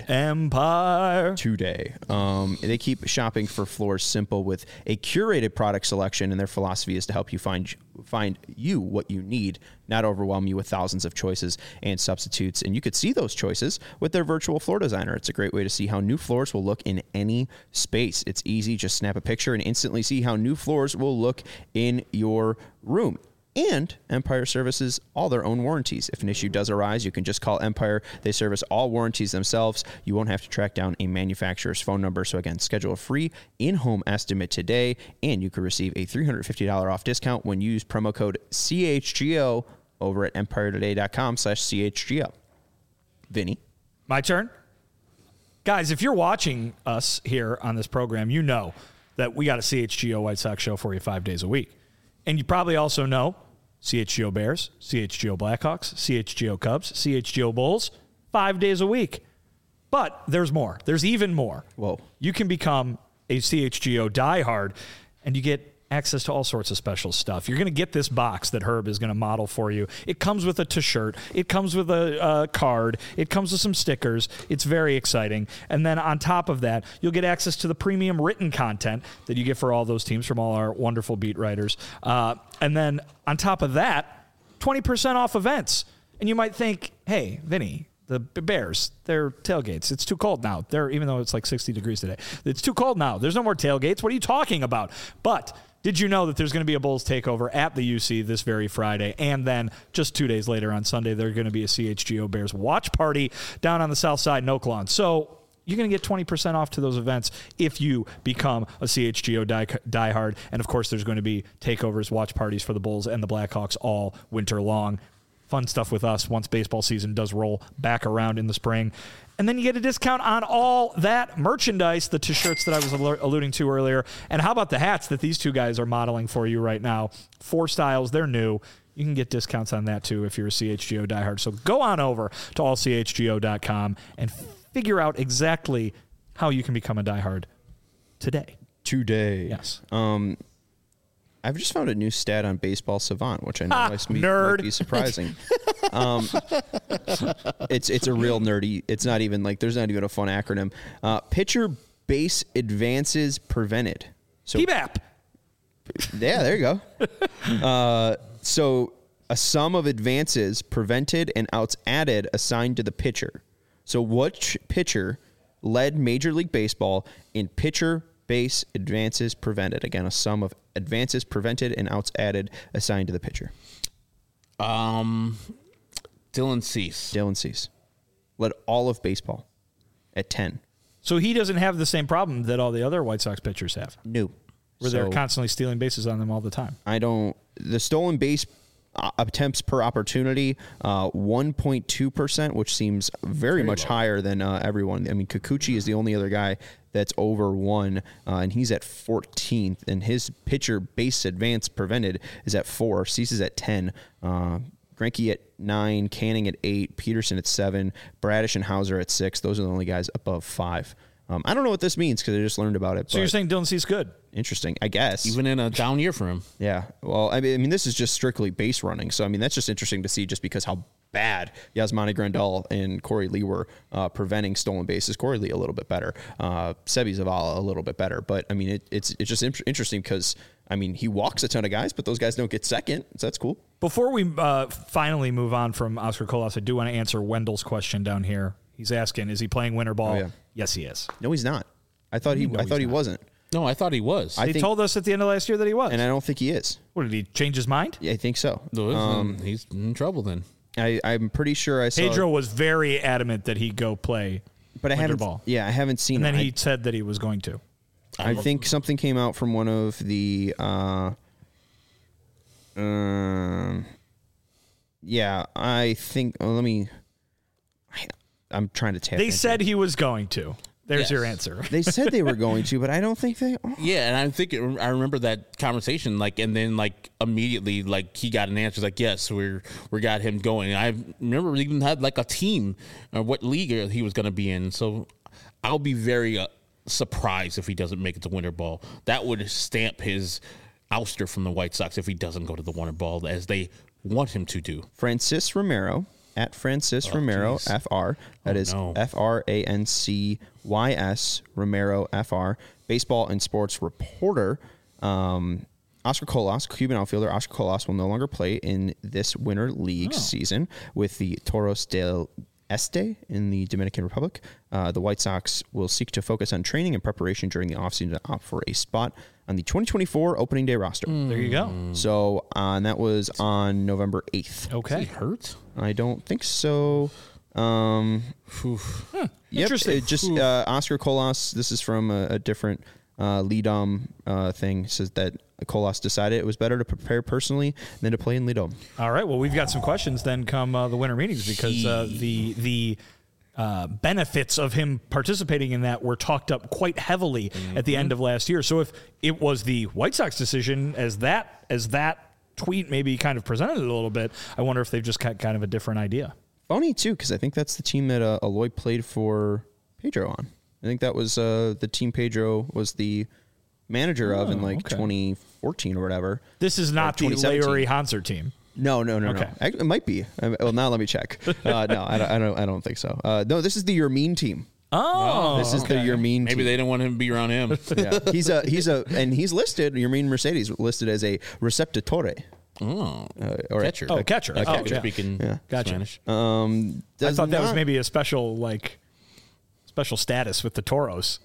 [SPEAKER 2] Empire
[SPEAKER 1] Today. Um, they keep shopping for floors simple with a curated product selection, and their philosophy is to help you find find you what you need, not overwhelm you with thousands of choices and substitutes. And you could see those choices with their virtual floor designer. It's a great way to see how new floors will look in any space. It's easy. Just snap a picture and instantly see how new floors will look in your room. And Empire services all their own warranties. If an issue does arise, you can just call Empire. They service all warranties themselves. You won't have to track down a manufacturer's phone number. So again, schedule a free in-home estimate today, and you can receive a three hundred fifty dollars off discount when you use promo code C H G O over at empiretoday.com slash CHGO. Vinny.
[SPEAKER 2] My turn? Guys, if you're watching us here on this program, you know that we got a C H G O White Sox show for you five days a week. And you probably also know C H G O Bears, C H G O Blackhawks, C H G O Cubs, C H G O Bulls, five days a week. But there's more. There's even more.
[SPEAKER 1] Whoa.
[SPEAKER 2] You can become a C H G O diehard, and you get access to all sorts of special stuff. You're going to get this box that Herb is going to model for you. It comes with a t-shirt. It comes with a uh, card. It comes with some stickers. It's very exciting. And then on top of that, you'll get access to the premium written content that you get for all those teams from all our wonderful beat writers. Uh, and then on top of that, twenty percent off events. And you might think, hey, Vinny, the Bears, they're tailgates. It's too cold now. They're, even though it's like sixty degrees today. It's too cold now. There's no more tailgates. What are you talking about? But did you know that there's going to be a Bulls takeover at the U C this very Friday? And then just two days later on Sunday, there's going to be a C H G O Bears watch party down on the south side in Oaklawn. So you're going to get twenty percent off to those events if you become a C H G O die, diehard. And, of course, there's going to be takeovers, watch parties for the Bulls and the Blackhawks all winter long. Fun stuff with us once baseball season does roll back around in the spring. And then you get a discount on all that merchandise, the t-shirts that I was alluding to earlier. And how about the hats that these two guys are modeling for you right now? Four styles. They're new. You can get discounts on that, too, if you're a C H G O diehard. So go on over to all C H G O dot com and figure out exactly how you can become a diehard today.
[SPEAKER 1] Today.
[SPEAKER 2] Yes.
[SPEAKER 1] Um, I've just found a new stat on Baseball Savant, which I know
[SPEAKER 2] Ah,
[SPEAKER 1] might, be,
[SPEAKER 2] nerd.
[SPEAKER 1] might be surprising. um, it's it's a real nerdy. It's not even like there's not even a fun acronym. Uh, pitcher base advances prevented. So
[SPEAKER 2] P B A P.
[SPEAKER 1] yeah, there you go. Uh, so a sum of advances prevented and outs added assigned to the pitcher. So which pitcher led Major League Baseball in pitcher base advances prevented? Again, a sum of advances prevented and outs added assigned to the pitcher.
[SPEAKER 3] Um, Dylan Cease.
[SPEAKER 1] Dylan Cease led all of baseball at ten.
[SPEAKER 2] So he doesn't have the same problem that all the other White Sox pitchers have,
[SPEAKER 1] No.
[SPEAKER 2] where
[SPEAKER 1] So
[SPEAKER 2] they're constantly stealing bases on them all the time.
[SPEAKER 1] I don't. The stolen base uh, attempts per opportunity, uh, one point two percent, which seems very, much
[SPEAKER 3] low.
[SPEAKER 1] higher than uh, everyone. I mean, Kikuchi is the only other guy that's over one, uh, and he's at fourteenth, and his pitcher base advance prevented is at four. Cease is at ten. Uh, Greinke at nine, Canning at eight, Peterson at seven, Bradish and Hauser at six. Those are the only guys above five. Um, I don't know what this means because I just learned about it.
[SPEAKER 2] So
[SPEAKER 1] but
[SPEAKER 2] you're saying Dylan Cease good?
[SPEAKER 1] interesting, I guess.
[SPEAKER 3] Even in a down year for him.
[SPEAKER 1] Yeah. Well, I mean, I mean, this is just strictly base running. So, I mean, that's just interesting to see just because how bad Yasmani Grandal and Corey Lee were uh, preventing stolen bases. Corey Lee a little bit better. Uh, Sebi Zavala a little bit better. But, I mean, it, it's it's just in- interesting because, I mean, he walks a ton of guys, but those guys don't get second. So that's cool.
[SPEAKER 2] Before we uh, finally move on from Oscar Colas, I do want to answer Wendell's question down here. He's asking, is he playing winter ball?
[SPEAKER 1] Oh, yeah.
[SPEAKER 2] Yes, he is.
[SPEAKER 1] No, he's not. I thought he.
[SPEAKER 2] No,
[SPEAKER 1] I
[SPEAKER 2] he's
[SPEAKER 1] thought he
[SPEAKER 2] not.
[SPEAKER 1] wasn't.
[SPEAKER 3] No, I thought he was.
[SPEAKER 1] I
[SPEAKER 2] He
[SPEAKER 1] think-
[SPEAKER 2] told us at the end of last year that he was.
[SPEAKER 1] And I don't think he is.
[SPEAKER 2] What, did he change his mind?
[SPEAKER 1] Yeah, I think so.
[SPEAKER 3] No,
[SPEAKER 1] Um,
[SPEAKER 3] he's in trouble then.
[SPEAKER 1] I, I'm pretty sure I saw.
[SPEAKER 2] Pedro was very adamant that he go play
[SPEAKER 1] but I
[SPEAKER 2] winter
[SPEAKER 1] haven't.
[SPEAKER 2] ball.
[SPEAKER 1] Yeah, I haven't seen.
[SPEAKER 2] And then
[SPEAKER 1] it.
[SPEAKER 2] he said that he was going to.
[SPEAKER 1] I, I think something came out from one of the. Uh, um. Yeah, I think. Oh, let me. I, I'm trying to tap.
[SPEAKER 2] They
[SPEAKER 1] into
[SPEAKER 2] said
[SPEAKER 1] it.
[SPEAKER 2] he was going to. There's
[SPEAKER 3] Yes.
[SPEAKER 2] your answer.
[SPEAKER 1] They said they were going to, but I don't think they. Oh.
[SPEAKER 3] Yeah, and I think it, I remember that conversation. Like, and then like immediately, like he got an answer. Like, yes, we're we got him going. I remember we even had like a team, or what league he was going to be in. So I'll be very uh, surprised if he doesn't make it to winter ball. That would stamp his ouster from the White Sox if he doesn't go to the winter ball as they want him to do.
[SPEAKER 1] Francis Romero at Francis
[SPEAKER 3] Oh,
[SPEAKER 1] Romero
[SPEAKER 3] geez.
[SPEAKER 1] F R. That
[SPEAKER 3] Oh,
[SPEAKER 1] is
[SPEAKER 3] no.
[SPEAKER 1] F R A N C Y S Romero F R. Baseball and sports reporter. Um, Oscar Colas, Cuban outfielder Oscar Colas, will no longer play in this winter league
[SPEAKER 3] Oh.
[SPEAKER 1] season with the Toros del Este in the Dominican Republic. Uh, the White Sox will seek to focus on training and preparation during the offseason to opt for a spot on the twenty twenty-four opening day roster.
[SPEAKER 2] There you go.
[SPEAKER 1] So, uh, and that was on November eighth.
[SPEAKER 2] Okay.
[SPEAKER 3] Is he hurt?
[SPEAKER 1] I don't think so. Um, yep,
[SPEAKER 2] Interesting.
[SPEAKER 1] it just uh, Oscar Colas. This is from a, a different uh, Leadom uh, thing. Says that Colas decided it was better to prepare personally than to play in Lido.
[SPEAKER 2] All right. Well, we've got some questions then come uh, the winter meetings because uh, the the uh, benefits of him participating in that were talked up quite heavily mm-hmm. at the end of last year. So if it was the White Sox decision as that as that tweet maybe kind of presented it a little bit, I wonder if they've just got kind of a different idea.
[SPEAKER 1] Funny, too, because I think that's the team that uh, Eloy played for Pedro on. I think that was uh, the team Pedro was the manager oh, of in like okay. twenty fourteen or whatever.
[SPEAKER 2] This is not the Larry Hanser team.
[SPEAKER 1] No, no, no, okay. no. It might be. Well, now let me check. Uh, no, I don't, I don't. I don't think so. Uh, no, this is the Yermin team.
[SPEAKER 2] Oh,
[SPEAKER 1] this is
[SPEAKER 2] okay.
[SPEAKER 1] the Yermin.
[SPEAKER 3] Maybe
[SPEAKER 1] team.
[SPEAKER 3] they don't want him to be around him.
[SPEAKER 1] Yeah, he's a he's a and he's listed. Yermin Mercedes listed as a receptatore.
[SPEAKER 3] Oh,
[SPEAKER 1] uh, or
[SPEAKER 3] catcher.
[SPEAKER 2] Oh, catcher.
[SPEAKER 3] Like
[SPEAKER 2] oh,
[SPEAKER 3] catcher
[SPEAKER 2] yeah.
[SPEAKER 3] speaking
[SPEAKER 2] yeah. Gotcha.
[SPEAKER 3] Spanish.
[SPEAKER 1] Um,
[SPEAKER 2] I thought that
[SPEAKER 1] not,
[SPEAKER 2] was maybe a special like special status with the Toros.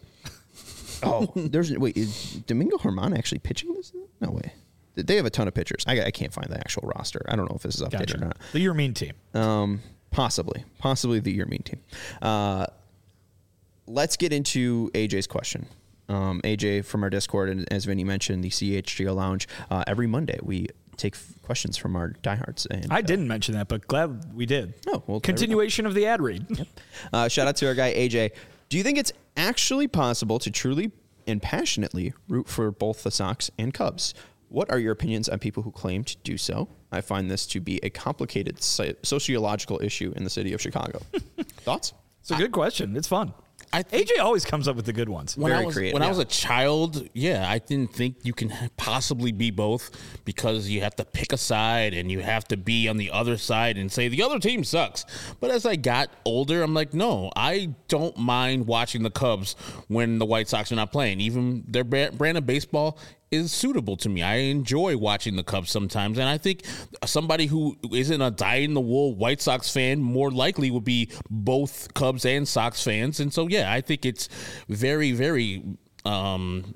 [SPEAKER 1] Oh, there's wait. Is Domingo Germán actually pitching this? No way. They have a ton of pitchers. I, I can't find the actual roster. I don't know if this is updated
[SPEAKER 2] gotcha.
[SPEAKER 1] or not.
[SPEAKER 2] The Yermin team.
[SPEAKER 1] Um, possibly, possibly the Yermin team. Uh, let's get into A J's question. Um, A J from our Discord, and as Vinny mentioned, the C H G O Lounge. Uh, every Monday we take f- questions from our diehards. And,
[SPEAKER 2] I
[SPEAKER 1] uh,
[SPEAKER 2] didn't mention that, but glad we did.
[SPEAKER 1] Oh, well,
[SPEAKER 2] continuation of the ad read.
[SPEAKER 1] Yep. Uh, shout out to our guy A J. Do you think it's actually possible to truly and passionately root for both the Sox and Cubs? What are your opinions on people who claim to do so? I find this to be a complicated so- sociological issue in the city of Chicago. Thoughts?
[SPEAKER 2] It's a good question. It's fun.
[SPEAKER 3] I
[SPEAKER 2] A J always comes up with the good ones.
[SPEAKER 3] When,
[SPEAKER 1] Very
[SPEAKER 3] I was,
[SPEAKER 1] creative,
[SPEAKER 3] when
[SPEAKER 1] yeah.
[SPEAKER 3] I was a child, yeah, I didn't think you can possibly be both because you have to pick a side and you have to be on the other side and say the other team sucks. But as I got older, I'm like, no, I don't mind watching the Cubs when the White Sox are not playing. Even their brand of baseball is suitable to me. I enjoy watching the Cubs sometimes, and I think somebody who isn't a dyed-in-the-wool White Sox fan more likely would be both Cubs and Sox fans. And so, yeah, I think it's very, very um,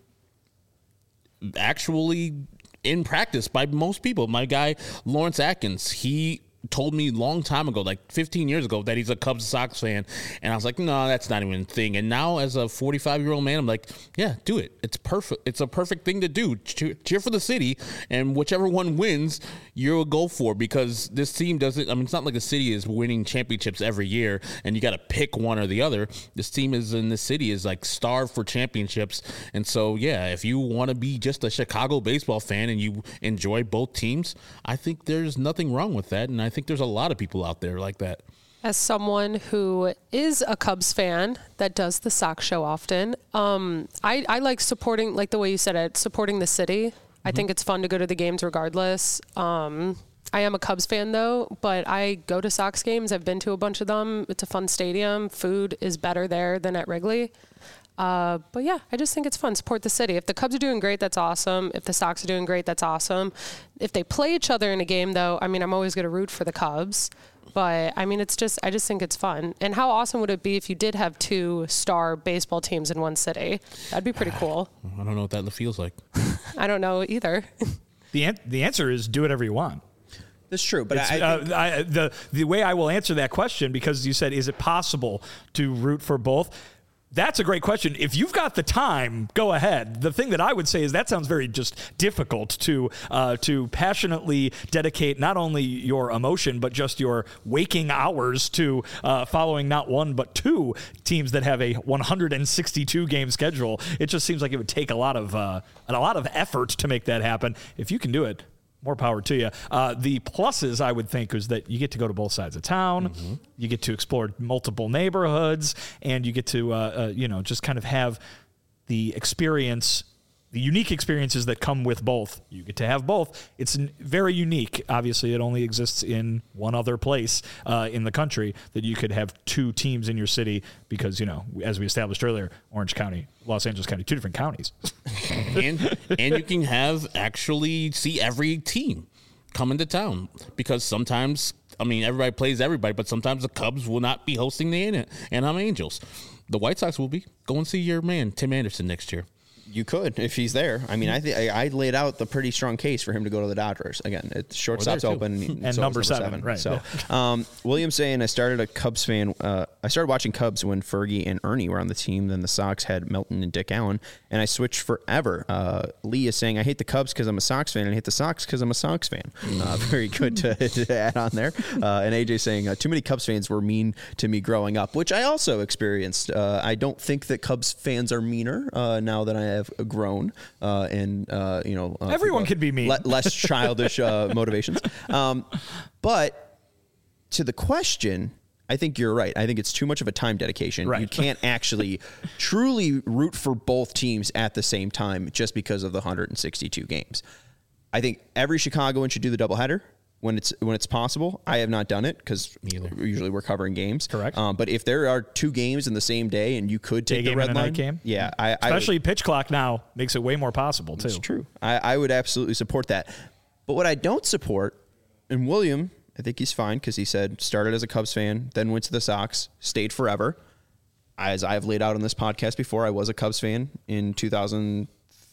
[SPEAKER 3] actually in practice by most people. My guy, Lawrence Atkins, he told me a long time ago, like fifteen years ago, that he's a Cubs Sox fan. And I was like, no, that's not even a thing. And now as a forty-five-year-old man, I'm like, yeah, do it. It's perfect. It's a perfect thing to do. Cheer, cheer for the city. And whichever one wins, you'll go for, because this team doesn't, I mean, it's not like the city is winning championships every year and you got to pick one or the other. This team is in the city is like starved for championships. And so, yeah, if you want to be just a Chicago baseball fan and you enjoy both teams, I think there's nothing wrong with that. And I think there's a lot of people out there like that.
[SPEAKER 4] As someone who is a Cubs fan that does the Sox show often, um, I, I like supporting, like the way you said it, supporting the city. Mm-hmm. I think it's fun to go to the games regardless. Um, I am a Cubs fan though, but I go to Sox games. I've been to a bunch of them. It's a fun stadium. Food is better there than at Wrigley. Uh, but yeah, I just think it's fun. Support the city. If the Cubs are doing great, that's awesome. If the Sox are doing great, that's awesome. If they play each other in a game though, I mean, I'm always going to root for the Cubs, but I mean, it's just, I just think it's fun. And how awesome would it be if you did have two star baseball teams in one city? That'd be pretty cool.
[SPEAKER 3] I don't know what that feels like.
[SPEAKER 4] I don't know either.
[SPEAKER 2] The an- the answer is do whatever you want.
[SPEAKER 1] That's true, but I,
[SPEAKER 2] uh,
[SPEAKER 1] think-
[SPEAKER 2] I, the the way I will answer that question, because you said, is it possible to root for both? That's a great question. If you've got the time, go ahead. The thing that I would say is that sounds very just difficult to uh, to passionately dedicate not only your emotion, but just your waking hours to uh, following not one, but two teams that have a one hundred sixty-two game schedule. It just seems like it would take a lot of uh, a lot of effort to make that happen. If you can do it, more power to you. Uh, the pluses, I would think, is that you get to go to both sides of town, mm-hmm. you get to explore multiple neighborhoods, and you get to, uh, uh, you know, just kind of have the experience, the unique experiences that come with both. You get to have both. It's n- very unique. Obviously, it only exists in one other place uh, in the country that you could have two teams in your city because, you know, as we established earlier, Orange County, Los Angeles County, two different counties.
[SPEAKER 3] and and you can have actually see every team come into town, because sometimes, I mean, everybody plays everybody, but sometimes the Cubs will not be hosting the Anaheim Angels. The White Sox will be. Go and see your man, Tim Anderson, next year.
[SPEAKER 1] You could if he's there. I mean, I think I laid out the pretty strong case for him to go to the Dodgers. Again, it's shortstop's open
[SPEAKER 2] and
[SPEAKER 1] so
[SPEAKER 2] number,
[SPEAKER 1] number
[SPEAKER 2] seven,
[SPEAKER 1] seven.
[SPEAKER 2] right?
[SPEAKER 1] So,
[SPEAKER 2] yeah.
[SPEAKER 1] um, William saying I started a Cubs fan. Uh, I started watching Cubs when Fergie and Ernie were on the team. Then the Sox had Melton and Dick Allen, and I switched forever. Uh, Lee is saying I hate the Cubs because I'm a Sox fan, and I hate the Sox because I'm a Sox fan. Uh, very good to, to add on there. Uh, and A J saying uh, too many Cubs fans were mean to me growing up, which I also experienced. Uh, I don't think that Cubs fans are meaner uh, now that I have grown. Uh, and, uh, you know, uh,
[SPEAKER 2] everyone
[SPEAKER 1] people,
[SPEAKER 2] could be mean.
[SPEAKER 1] Le- less childish uh, motivations. Um, but to the question, I think you're right. I think it's too much of a time dedication.
[SPEAKER 2] Right.
[SPEAKER 1] You can't actually truly root for both teams at the same time just because of the one hundred sixty-two games. I think every Chicagoan should do the doubleheader when it's when it's possible. I have not done it because usually we're covering games.
[SPEAKER 2] Correct.
[SPEAKER 1] Um, but if there are two games in the same day and you could take
[SPEAKER 2] Day
[SPEAKER 1] the
[SPEAKER 2] game
[SPEAKER 1] red
[SPEAKER 2] and a
[SPEAKER 1] line,
[SPEAKER 2] night game.
[SPEAKER 1] yeah, I,
[SPEAKER 2] especially
[SPEAKER 1] I would,
[SPEAKER 2] pitch clock now makes it way more possible too.
[SPEAKER 1] It's true. I, I would absolutely support that. But what I don't support, and William, I think he's fine because he said started as a Cubs fan, then went to the Sox, stayed forever. As I've laid out on this podcast before, I was a Cubs fan in two thousand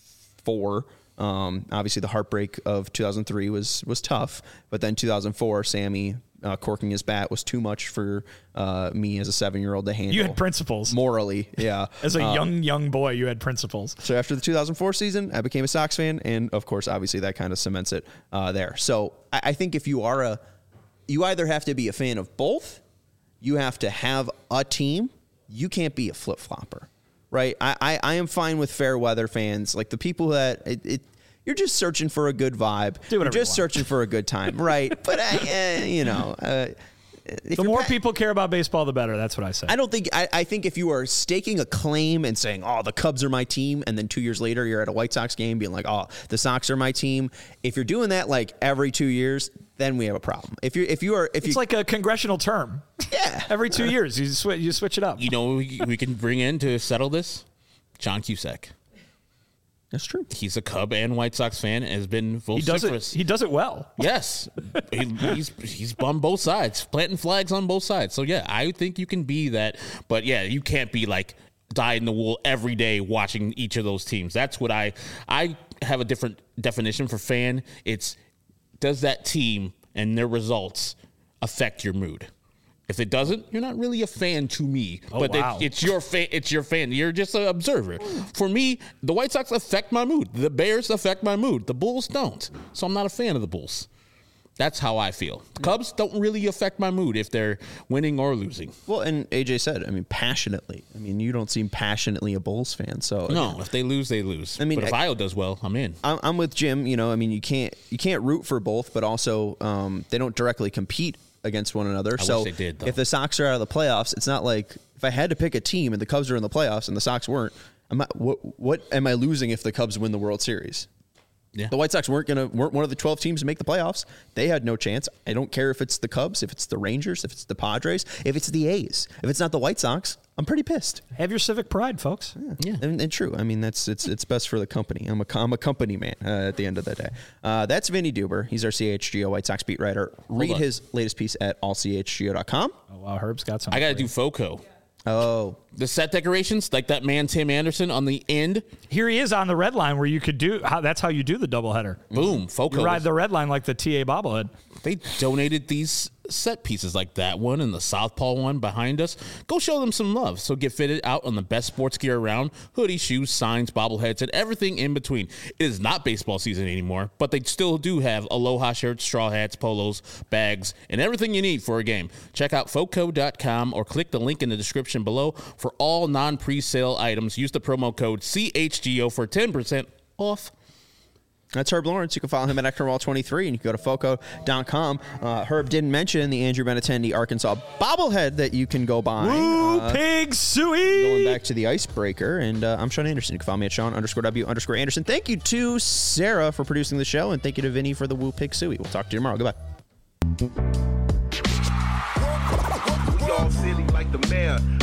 [SPEAKER 1] four. Um, obviously, the heartbreak of two thousand three was was tough, but then two thousand four, Sammy uh, corking his bat was too much for uh, me as a seven-year-old to handle.
[SPEAKER 2] You had principles.
[SPEAKER 1] Morally, yeah.
[SPEAKER 2] As a
[SPEAKER 1] um,
[SPEAKER 2] young, young boy, you had principles.
[SPEAKER 1] So after the two thousand four season, I became a Sox fan, and of course, obviously, that kind of cements it uh, there. So I, I think if you are a, you either have to be a fan of both, you have to have a team. You can't be a flip-flopper. Right, I, I, I am fine with fair weather fans, like the people that it, it you're just searching for a good vibe.
[SPEAKER 2] Do
[SPEAKER 1] you're
[SPEAKER 2] whatever
[SPEAKER 1] just
[SPEAKER 2] you want.
[SPEAKER 1] searching for a good time, right? But I, uh, you know, uh, if
[SPEAKER 2] The
[SPEAKER 1] you're
[SPEAKER 2] more
[SPEAKER 1] pa-
[SPEAKER 2] people care about baseball, the better. That's what I say.
[SPEAKER 1] I don't think I, I think if you are staking a claim and saying, "Oh, the Cubs are my team," and then two years later you're at a White Sox game being like, "Oh, the Sox are my team," if you're doing that like every two years, then we have a problem. If you if you are if
[SPEAKER 2] it's
[SPEAKER 1] you
[SPEAKER 2] like a congressional term.
[SPEAKER 1] Yeah,
[SPEAKER 2] Every two years, you switch you switch it up.
[SPEAKER 3] You know, we, we can bring in to settle this. John Cusack.
[SPEAKER 1] That's true.
[SPEAKER 3] He's a Cub and White Sox fan and has been
[SPEAKER 2] He does it.
[SPEAKER 3] vociferous.
[SPEAKER 2] He does it well.
[SPEAKER 3] Yes, he, he's he's on both sides, planting flags on both sides. So yeah, I think you can be that, but yeah, you can't be like dyed in the wool every day watching each of those teams. That's what I I have a different definition for fan. It's does that team and their results affect your mood? If it doesn't, you're not really a fan to me.
[SPEAKER 2] Oh,
[SPEAKER 3] but
[SPEAKER 2] wow.
[SPEAKER 3] it, it's your fan. It's your fan. You're just an observer. For me, the White Sox affect my mood. The Bears affect my mood. The Bulls don't. So I'm not a fan of the Bulls. That's how I feel. Cubs don't really affect my mood if they're winning or losing.
[SPEAKER 1] Well, and A J said, I mean, passionately. I mean, you don't seem passionately a Bulls fan. So
[SPEAKER 3] No, if they lose, they lose.
[SPEAKER 1] I mean,
[SPEAKER 3] but if
[SPEAKER 1] I-
[SPEAKER 3] Io does well, I'm in.
[SPEAKER 1] I'm, I'm with Jim. You know, I mean, you can't you can't root for both, but also um, they don't directly compete against one another.
[SPEAKER 3] I
[SPEAKER 1] so
[SPEAKER 3] wish they did, though.
[SPEAKER 1] if the Sox are out of the playoffs, it's not like if I had to pick a team and the Cubs are in the playoffs and the Sox weren't. I'm not, what what am I losing if the Cubs win the World Series?
[SPEAKER 3] Yeah.
[SPEAKER 1] The White Sox weren't gonna weren't one of the twelve teams to make the playoffs. They had no chance. I don't care if it's the Cubs, if it's the Rangers, if it's the Padres, if it's the A's. If it's not the White Sox, I'm pretty pissed.
[SPEAKER 2] Have your civic pride, folks.
[SPEAKER 3] Yeah.
[SPEAKER 1] And, and true. I mean, that's it's it's best for the company. I'm a I'm a company man uh, at the end of the day. Uh, that's Vinny Duber. He's our C H G O White Sox beat writer. Read
[SPEAKER 3] on.
[SPEAKER 1] his latest piece at all c h g o dot com.
[SPEAKER 2] Oh, wow, Herb's got some.
[SPEAKER 3] I got to do FOCO.
[SPEAKER 1] Oh,
[SPEAKER 3] The set decorations, like that man Tim Anderson on the end.
[SPEAKER 2] Here he is on the red line where you could do. How, that's how you do the doubleheader.
[SPEAKER 3] Boom. FOCO.
[SPEAKER 2] You ride
[SPEAKER 3] was-
[SPEAKER 2] the red line like the T A bobblehead.
[SPEAKER 3] They donated these set pieces like that one and the Southpaw one behind us. Go show them some love. So get fitted out on the best sports gear around. Hoodies, shoes, signs, bobbleheads, and everything in between. It is not baseball season anymore, but they still do have Aloha shirts, straw hats, polos, bags, and everything you need for a game. Check out foco dot com or click the link in the description below for all non-presale items. Use the promo code C H G O for ten percent off.
[SPEAKER 1] that's Herb Lawrence. You can follow him at Ector Wall twenty-three, and you can go to foco dot com. Uh, Herb didn't mention the Andrew Benintendi Arkansas bobblehead that you can go buy.
[SPEAKER 2] Woo,
[SPEAKER 1] Uh,
[SPEAKER 2] pig suey.
[SPEAKER 1] Going back to the icebreaker, and uh, I'm Sean Anderson. You can follow me at Sean underscore W underscore Anderson. Thank you to Sarah for producing the show, and thank you to Vinny for the Woo Pig Suey. We'll talk to you tomorrow. Goodbye.
[SPEAKER 5] We all silly like the mayor.